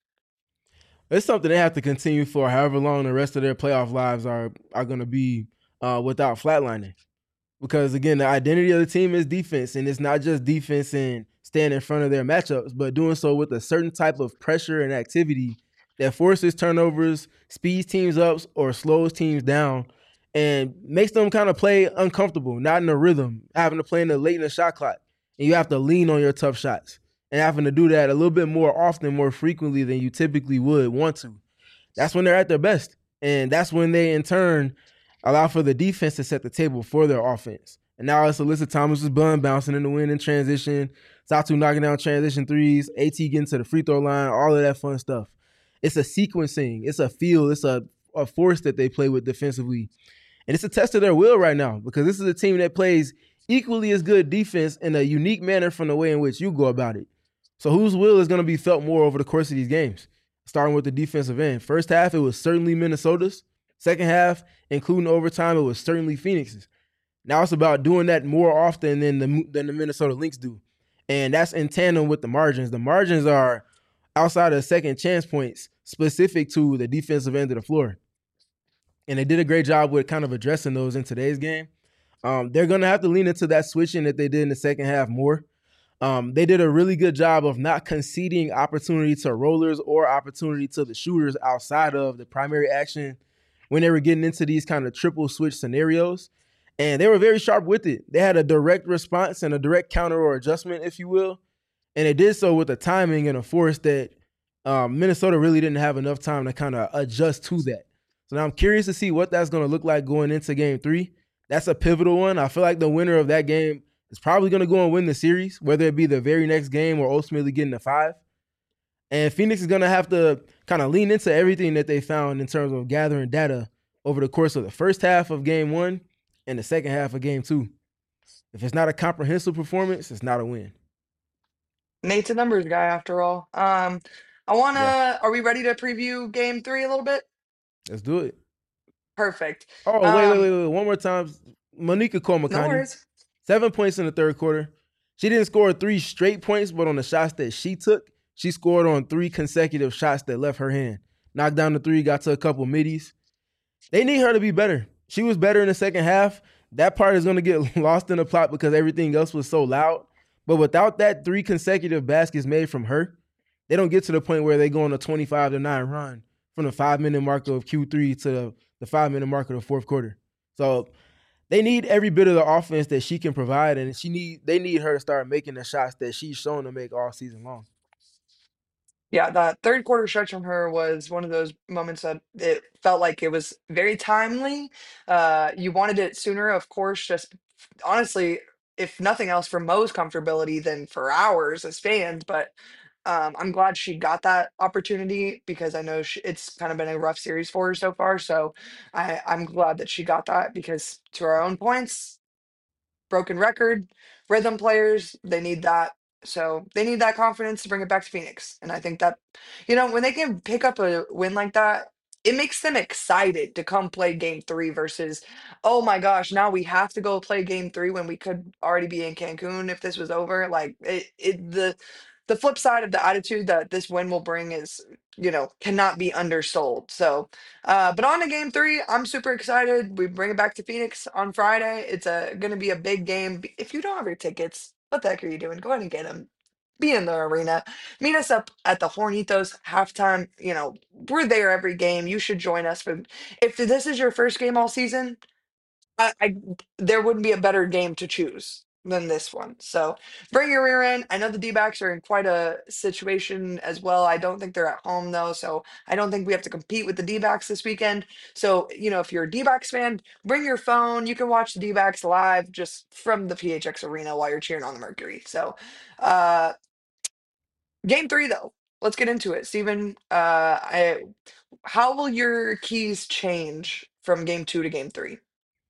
S3: It's something they have to continue for however long the rest of their playoff lives are are going to be uh, without flatlining. Because again, the identity of the team is defense, and it's not just defense and staying in front of their matchups, but doing so with a certain type of pressure and activity that forces turnovers, speeds teams up, or slows teams down, and makes them kind of play uncomfortable, not in a rhythm, having to play in the late in the shot clock, and you have to lean on your tough shots, and having to do that a little bit more often, more frequently than you typically would want to. That's when they're at their best, and that's when they in turn allow for the defense to set the table for their offense. And now it's Alyssa Thomas's bun bouncing in the wind in transition, Satu knocking down transition threes, AT getting to the free throw line, all of that fun stuff. It's a sequencing, it's a feel, it's a, a force that they play with defensively. And it's a test of their will right now because this is a team that plays equally as good defense in a unique manner from the way in which you go about it. So whose will is going to be felt more over the course of these games? Starting with the defensive end. First half, it was certainly Minnesota's. Second half, including overtime, it was certainly Phoenix's. Now it's about doing that more often than the than the Minnesota Lynx do. And that's in tandem with the margins. The margins are outside of second chance points specific to the defensive end of the floor. And they did a great job with kind of addressing those in today's game. Um, they're going to have to lean into that switching that they did in the second half more. Um, they did a really good job of not conceding opportunity to rollers or opportunity to the shooters outside of the primary action when they were getting into these kind of triple switch scenarios. And they were very sharp with it. They had a direct response and a direct counter or adjustment, if you will. And they did so with a timing and a force that um, Minnesota really didn't have enough time to kind of adjust to that. So now I'm curious to see what that's going to look like going into game three. That's a pivotal one. I feel like the winner of that game is probably going to go and win the series, whether it be the very next game or ultimately getting a five. And Phoenix is going to have to kind of lean into everything that they found in terms of gathering data over the course of the first half of game one and the second half of game two. If it's not a comprehensive performance, it's not a win.
S1: Nate's a numbers guy after all. Um, I wanna.
S3: Yeah,
S1: Are we ready to preview game three a little bit?
S3: let's do it.
S1: Perfect.
S3: Oh, wait, wait,
S1: Um,
S3: wait, wait. One more time. Monica
S1: no
S3: Komakani,
S1: worries.
S3: seven points in the third quarter. She didn't score three straight points, but on the shots that she took, she scored on three consecutive shots that left her hand. Knocked down the three, got to a couple middies. They need her to be better. She was better in the second half. That part is going to get lost in the plot because everything else was so loud. But without that three consecutive baskets made from her, they don't get to the point where they go on a twenty-five to nine run from the five-minute mark of Q three to the five-minute mark of the fourth quarter. So they need every bit of the offense that she can provide, and she need they need her to start making the shots that she's shown to make all season long.
S1: Yeah, that third quarter stretch from her was one of those moments that it felt like it was very timely. Uh, you wanted it sooner, of course, just honestly, if nothing else, for Mo's comfortability than for ours as fans. But um, I'm glad she got that opportunity because I know she, it's kind of been a rough series for her so far. So I, I'm glad that she got that because, to our own points, broken record, rhythm players, they need that. So they need that confidence to bring it back to Phoenix. And I think that, you know, when they can pick up a win like that, it makes them excited to come play game three versus, oh my gosh, now we have to go play game three when we could already be in Cancun if this was over. Like it, it the the flip side of the attitude that this win will bring is, you know, cannot be undersold. So uh, but on to game three, I'm super excited. We bring it back to Phoenix on Friday. It's a going to be a big game. B- If you don't have your tickets, what the heck are you doing? Go ahead and get them. be in the arena. Meet us up at the Hornitos halftime. You know, we're there every game. You should join us. But if this is your first game all season, I, I there wouldn't be a better game to choose than this one. So bring your rear end. I know the D-backs are in quite a situation as well. I don't think they're at home though, so I don't think we have to compete with the D-backs this weekend. So you know, if you're a D-backs fan, bring your phone. You can watch the D-backs live just from the P H X Arena while you're cheering on the Mercury. So, uh, game three though. Let's get into it, Steven. Uh, I, how will your keys change from game two to game three?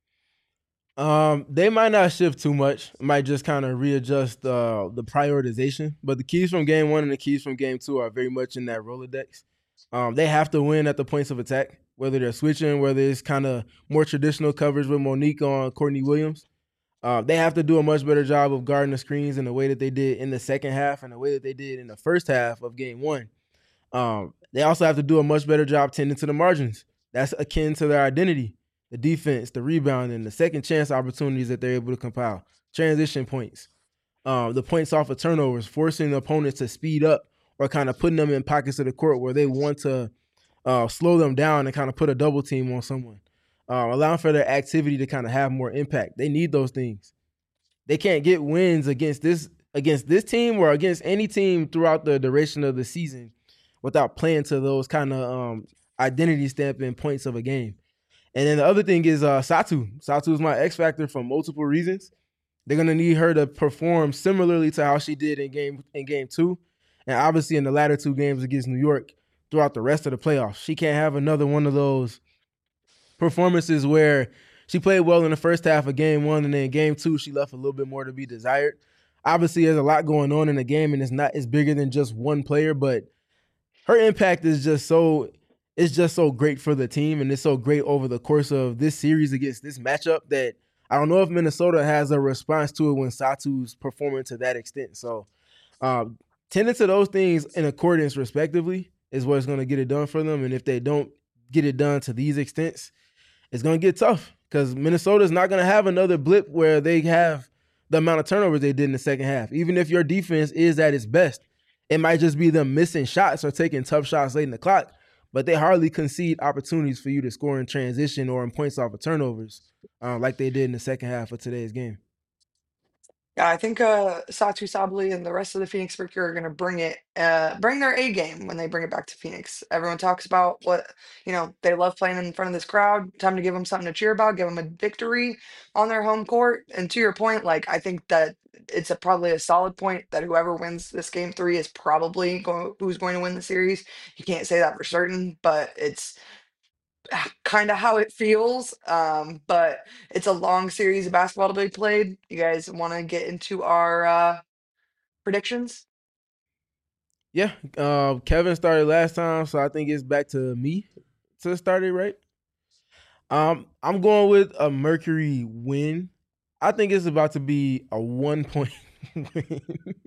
S3: Um, they might not shift too much. Might just kind of readjust uh, the prioritization. But the keys from game one and the keys from game two are very much in that Rolodex. Um, they have to win at the points of attack, whether they're switching, whether it's kind of more traditional coverage with Monique on Courtney Williams. Uh, they have to do a much better job of guarding the screens in the way that they did in the second half and the way that they did in the first half of game one. Um, they also have to do a much better job tending to the margins. That's akin to their identity, the defense, the rebounding, the second chance opportunities that they're able to compile, transition points, um, the points off of turnovers, forcing the opponents to speed up or kind of putting them in pockets of the court where they want to uh, slow them down and kind of put a double team on someone, uh, allowing for their activity to kind of have more impact. They need those things. They can't get wins against this against this team or against any team throughout the duration of the season without playing to those kind of um, identity stamping points of a game. And then the other thing is uh, Satu. Satu is my X factor for multiple reasons. They're gonna need her to perform similarly to how she did in game in game two, and obviously in the latter two games against New York throughout the rest of the playoffs. She can't have another one of those performances where she played well in the first half of game one, and then game two she left a little bit more to be desired. Obviously, there's a lot going on in the game, and it's not it's bigger than just one player, but her impact is just so it's just so great for the team, and it's so great over the course of this series against this matchup that I don't know if Minnesota has a response to it when Satu's performing to that extent. So, um, tending to those things in accordance, respectively, is what's going to get it done for them. And if they don't get it done to these extents, it's going to get tough because Minnesota's not going to have another blip where they have the amount of turnovers they did in the second half. Even if your defense is at its best, it might just be them missing shots or taking tough shots late in the clock, but they hardly concede opportunities for you to score in transition or in points off of turnovers uh, like they did in the second half of today's game.
S1: Yeah, I think uh, Satu Sabali and the rest of the Phoenix Mercury are going to bring it, uh, bring their A game when they bring it back to Phoenix. Everyone talks about what, you know, they love playing in front of this crowd. Time to give them something to cheer about, give them a victory on their home court. And to your point, like, I think that it's a, probably a solid point that whoever wins this game three is probably going, who's going to win the series. You can't say that for certain, but it's kind of how it feels. Um, but it's a long series of basketball to be played. You guys want to get into our uh, predictions?
S3: Yeah, uh, Kevin started last time, so I think it's back to me to start it, right? Um, I'm going with a Mercury win. I think it's about to be a one point win.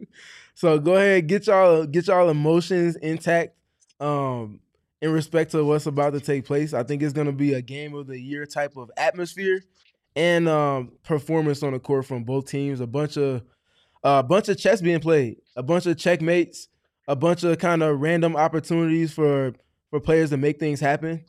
S3: So go ahead, get y'all get y'all emotions intact. Um, in respect to what's about to take place, I think it's gonna be a game of the year type of atmosphere and um, performance on the court from both teams. A bunch of a bunch of chess being played, a bunch of checkmates, a bunch of kind of random opportunities for for players to make things happen.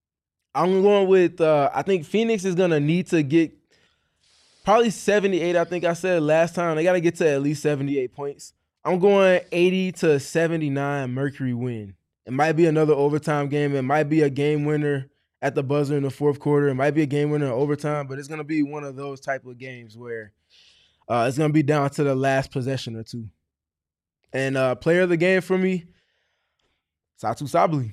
S3: I'm going with uh, I think Phoenix is gonna need to get probably seventy-eight. I think I said last time they got to get to at least seventy-eight points. I'm going eighty to seventy-nine Mercury win. It might be another overtime game. It might be a game winner at the buzzer in the fourth quarter. It might be a game winner in overtime, but it's gonna be one of those type of games where uh, it's gonna be down to the last possession or two. And uh, player of the game for me, Satu Sabali.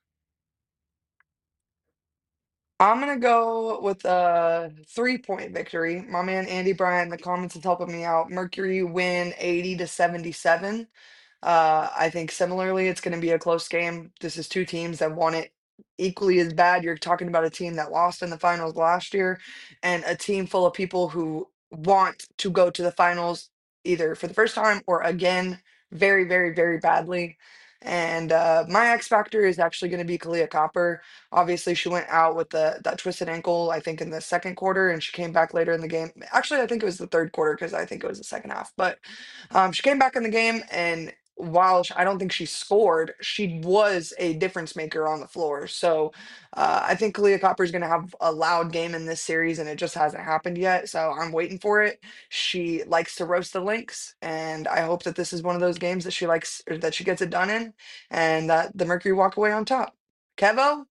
S1: I'm gonna go with a three-point victory. My man Andy Bryant in the comments is helping me out. Mercury win eighty to seventy-seven. Uh, I think similarly, it's going to be a close game. This is two teams that want it equally as bad. You're talking about a team that lost in the finals last year, and a team full of people who want to go to the finals either for the first time or again, very, very, very badly. And uh, my X factor is actually going to be Kalia Copper. Obviously, she went out with the that twisted ankle, I think, in the second quarter, and she came back later in the game. Actually, I think it was the third quarter because I think it was the second half. But um, she came back in the game, and while sh- I don't think she scored, she was a difference maker on the floor. So uh, I think Kalia Copper is going to have a loud game in this series, and it just hasn't happened yet. So I'm waiting for it. She likes to roast the Lynx, and I hope that this is one of those games that she likes, or that she gets it done in, and that the Mercury walk away on top. Kevo?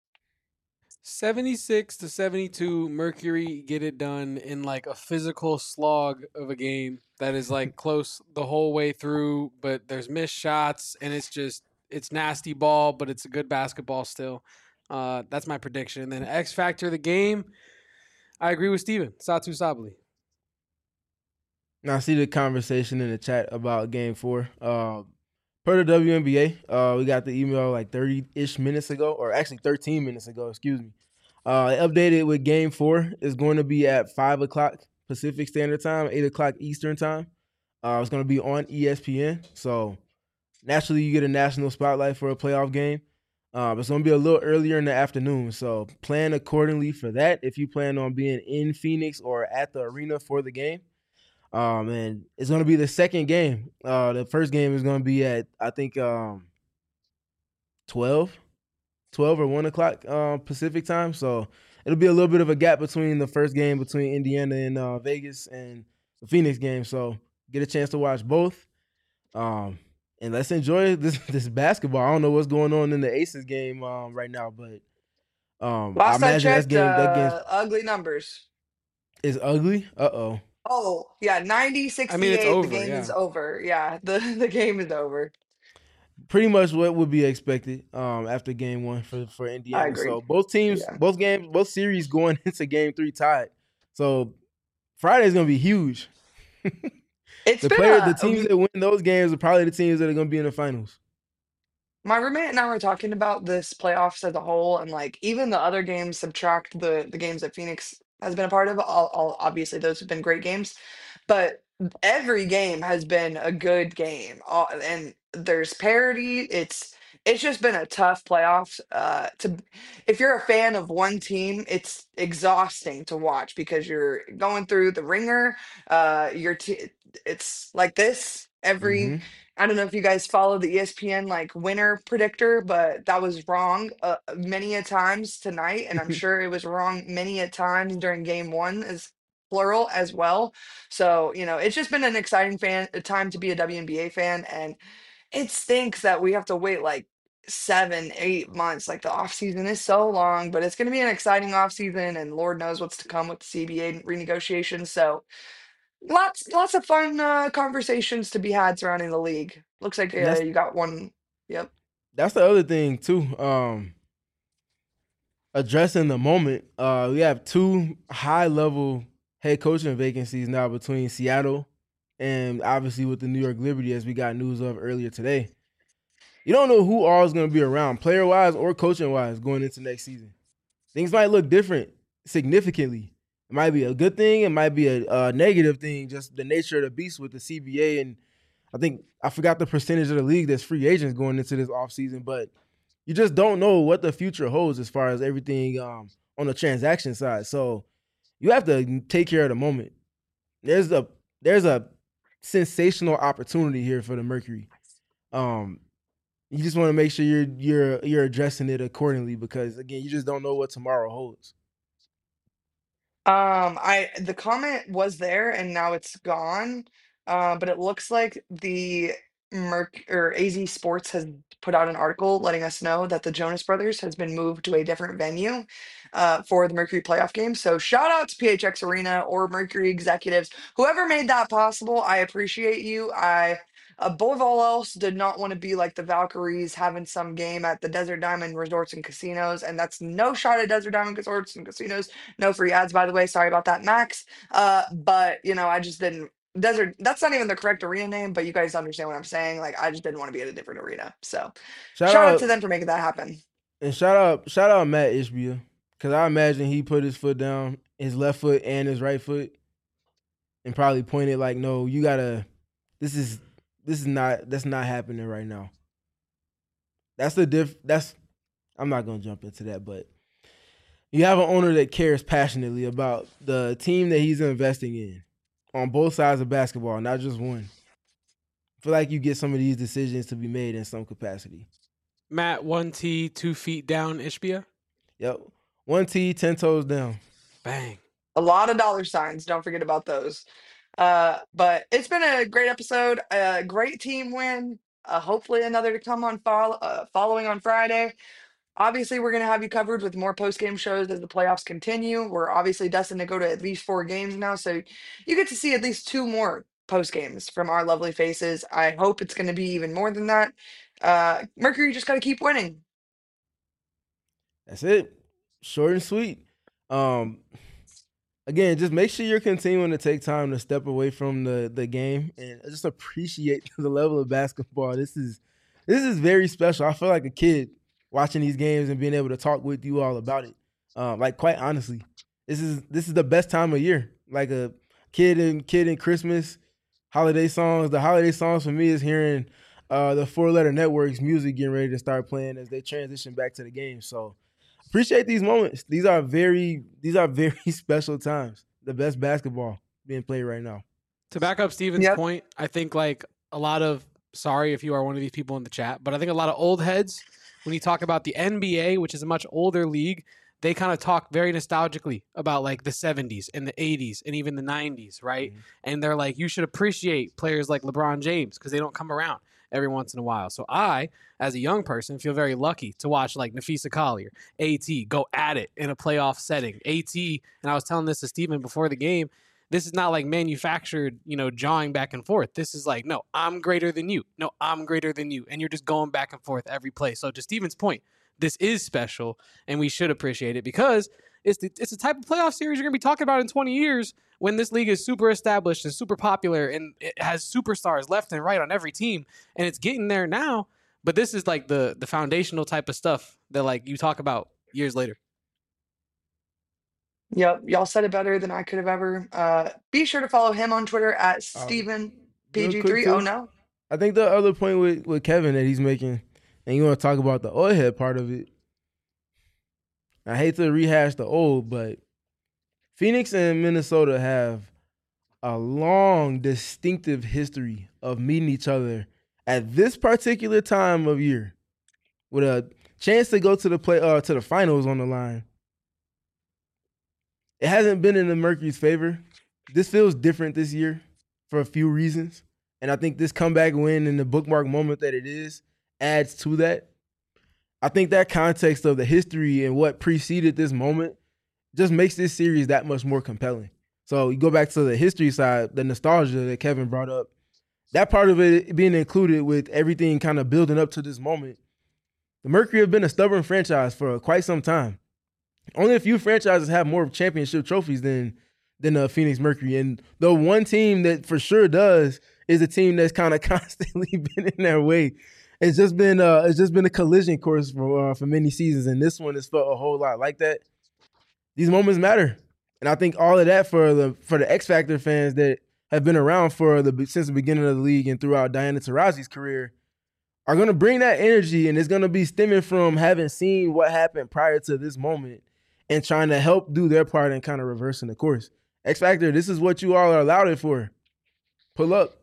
S2: seventy-six to seventy-two, Mercury get it done in like a physical slog of a game that is like close the whole way through, but there's missed shots and it's just it's nasty ball, but it's a good basketball still. Uh, that's my prediction. And then X factor of the game, I agree with Steven. Satu Sabali.
S3: Now I see the conversation in the chat about game four. Uh, per the W N B A, uh, we got the email like thirty-ish minutes ago, or actually thirteen minutes ago, excuse me. Uh, it updated with game four is going to be at five o'clock Pacific Standard Time, eight o'clock Eastern Time. Uh, it's going to be on E S P N. So naturally, you get a national spotlight for a playoff game. Uh, it's going to be a little earlier in the afternoon. So plan accordingly for that if you plan on being in Phoenix or at the arena for the game. Um, and it's going to be the second game. Uh, the first game is going to be at, I think, um, twelve, twelve or one o'clock uh, Pacific time. So it'll be a little bit of a gap between the first game between Indiana and uh, Vegas and the Phoenix game. So get a chance to watch both. Um, and let's enjoy this this basketball. I don't know what's going on in the Aces game um, right now, but um, I
S1: Last I
S3: imagine that's
S1: checked,
S3: game that game
S1: uh, ugly numbers.
S3: is ugly. Uh oh.
S1: Oh, yeah, ninety
S2: I mean, it's
S1: sixty-eight. The
S2: over,
S1: game is
S2: yeah.
S1: over. Yeah, the, the game is over.
S3: Pretty much what would be expected um, after game one for, for
S1: I
S3: Indiana.
S1: agree.
S3: So both teams,
S1: Yeah.
S3: both games, both series going into game three tied. So Friday's gonna be huge.
S1: It's
S3: the
S1: been
S3: player, the
S1: a,
S3: teams that win those games are probably the teams that are gonna be in the finals.
S1: my roommate and I were talking about this playoffs as a whole, and like even the other games, subtract the the games that Phoenix has been a part of. All, all obviously those have been great games, but every game has been a good game. All, and there's parity. It's it's just been a tough playoffs. Uh, to if you're a fan of one team, it's exhausting to watch because you're going through the ringer. Uh, your t- it's like this every.
S3: Mm-hmm.
S1: I don't know if you guys follow the E S P N like winner predictor, but that was wrong uh, many a times tonight, and I'm sure it was wrong many a times during game one as plural as well. So you know, it's just been an exciting fan a time to be a W N B A fan, and it stinks that we have to wait like seven, eight months. Like the off season is so long, but it's going to be an exciting off season, and Lord knows what's to come with the C B A renegotiation. So lots, lots of fun uh, conversations to be had surrounding the league. Looks like
S3: And
S1: uh,
S3: that's
S1: you got one. Yep.
S3: that's the other thing too. Um, addressing the moment, uh, we have two high level head coaching vacancies now between Seattle and obviously with the New York Liberty, as we got news of earlier today. You don't know who all is going to be around, player wise or coaching wise, going into next season. Things might look different significantly. It might be a good thing. It might be a, a negative thing, just the nature of the beast with the C B A. And I think I forgot the percentage of the league that's free agents going into this offseason, but you just don't know what the future holds as far as everything um, on the transaction side. So you have to take care of the moment. There's a there's a sensational opportunity here for the Mercury. Um, you just want to make sure you're you're you're addressing it accordingly because again, you just don't know what tomorrow holds.
S1: Um, I the comment was there and now it's gone. Uh, but it looks like the Merc or A Z Sports has put out an article letting us know that the Jonas Brothers has been moved to a different venue uh, for the Mercury playoff game. So shout out to P H X Arena or Mercury executives, whoever made that possible. I appreciate you. I above all else did not want to be like the Valkyries having some game at the Desert Diamond Resorts and Casinos, and that's no shot at Desert Diamond Resorts and Casinos. No free ads, by the way. Sorry about that, Max. Uh, but you know, I just didn't. Desert. That's not even the correct arena name, but you guys understand what I'm saying. Like, I just didn't want to be at a different arena. So,
S3: Shout
S1: shout out to
S3: out
S1: them for making that happen.
S3: and shout out shout out Matt Ishbia because I imagine he put his foot down, his left foot and his right foot, and probably pointed like, "No, you gotta. This is this is not that's not happening right now." That's the diff. That's I'm not gonna jump into that, but you have an owner that cares passionately about the team that he's investing in on both sides of basketball, not just one. I feel like you get some of these decisions to be made in some capacity.
S2: Matt, one T, two feet down, Ishbia.
S3: Yep. One T, ten toes down.
S2: Bang.
S1: A lot of dollar signs. Don't forget about those. Uh, but it's been a great episode, a great team win. Uh, hopefully another to come on follow, uh, following on Friday. Obviously, we're going to have you covered with more post game shows as the playoffs continue. We're obviously destined to go to at least four games now, so you get to see at least two more post games from our lovely faces. I hope it's going to be even more than that. Uh, Mercury just got to keep winning.
S3: That's it. Short and sweet. Um, again, just make sure you're continuing to take time to step away from the the game and just appreciate the level of basketball. This is this is very special. I feel like a kid watching these games and being able to talk with you all about it. Um, like quite honestly, this is this is the best time of year. Like a kid and kid in Christmas, holiday songs. The holiday songs for me is hearing uh, the Four Letter Network's music getting ready to start playing as they transition back to the game. So appreciate these moments. These are very these are very special times. The best basketball being played right now.
S2: To back up Steven's
S1: Yep.
S2: point, I think like a lot of sorry if you are one of these people in the chat, but I think a lot of old heads, when you talk about the N B A, which is a much older league, they kind of talk very nostalgically about like the seventies and the eighties and even the nineties, right?
S3: Mhm.
S2: And they're like, you should appreciate players like LeBron James because they don't come around every once in a while. So I, as a young person, feel very lucky to watch like Nafisa Collier, AT go at it in a playoff setting. AT, and I was telling this to Steven before the game, this is not like manufactured, you know, jawing back and forth. This is like, no, I'm greater than you. No, I'm greater than you. And you're just going back and forth every play. So to Steven's point, this is special and we should appreciate it because it's the, it's the type of playoff series you're going to be talking about in twenty years when this league is super established and super popular and it has superstars left and right on every team. And it's getting there now. But this is like the the foundational type of stuff that like you talk about years later.
S1: Yep, y'all said it better than I could have ever. Uh, be sure to follow him on Twitter at
S3: Um,
S1: Steven
S3: real quick
S1: P G three. Oh
S3: too.
S1: no.
S3: I think the other point with, with Kevin that he's making, and you want to talk about the old head part of it. I hate to rehash the old, but Phoenix and Minnesota have a long, distinctive history of meeting each other at this particular time of year, with a chance to go to the play uh, to the finals on the line. It hasn't been in the Mercury's favor. This feels different this year for a few reasons, and I think this comeback win and the bookmark moment that it is adds to that. I think that context of the history and what preceded this moment just makes this series that much more compelling. So you go back to the history side, the nostalgia that Kevin brought up, that part of it being included with everything kind of building up to this moment. The Mercury have been a stubborn franchise for quite some time. Only a few franchises have more championship trophies than than the Phoenix Mercury. And the one team that for sure does is a team that's kind of constantly been in their way. It's just been uh, it's just been a collision course for uh, for many seasons, and this one has felt a whole lot like that. These moments matter, and I think all of that for the for the X Factor fans that have been around for the since the beginning of the league and throughout Diana Taurasi's career are going to bring that energy, and it's going to be stemming from having seen what happened prior to this moment and trying to help do their part in kind of reversing the course. X Factor, this is what you all are allowed it for. Pull up.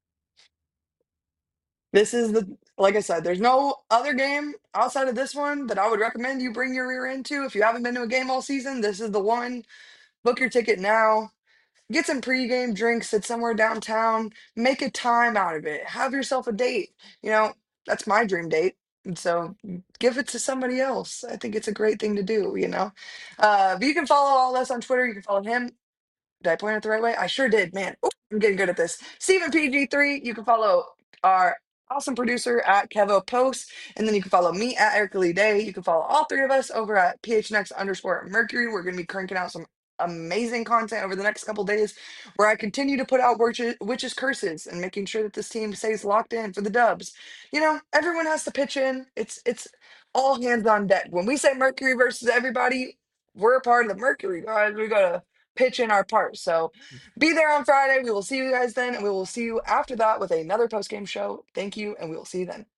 S1: This is the like I said, there's no other game outside of this one that I would recommend you bring your rear into. If you haven't been to a game all season, this is the one. Book your ticket now. Get some pregame drinks at somewhere downtown. Make a time out of it. Have yourself a date. You know, that's my dream date. And so give it to somebody else. I think it's a great thing to do, you know. Uh, but you can follow all us on Twitter. You can follow him. Did I point it the right way? I sure did, man. Ooh, I'm getting good at this. Steven P G three. You can follow our awesome producer at Kevo Post. And then you can follow me at Erica Lee Day. You can follow all three of us over at P H N X underscore Mercury. We're going to be cranking out some amazing content over the next couple days where I continue to put out witches, witches curses and making sure that this team stays locked in for the dubs. You know, everyone has to pitch in. It's it's all hands on deck. When we say Mercury versus everybody, we're a part of the Mercury, guys. We gotta pitch in our part. So be there on Friday. We will see you guys then, and we will see you after that with another post game show. Thank you, and we will see you then.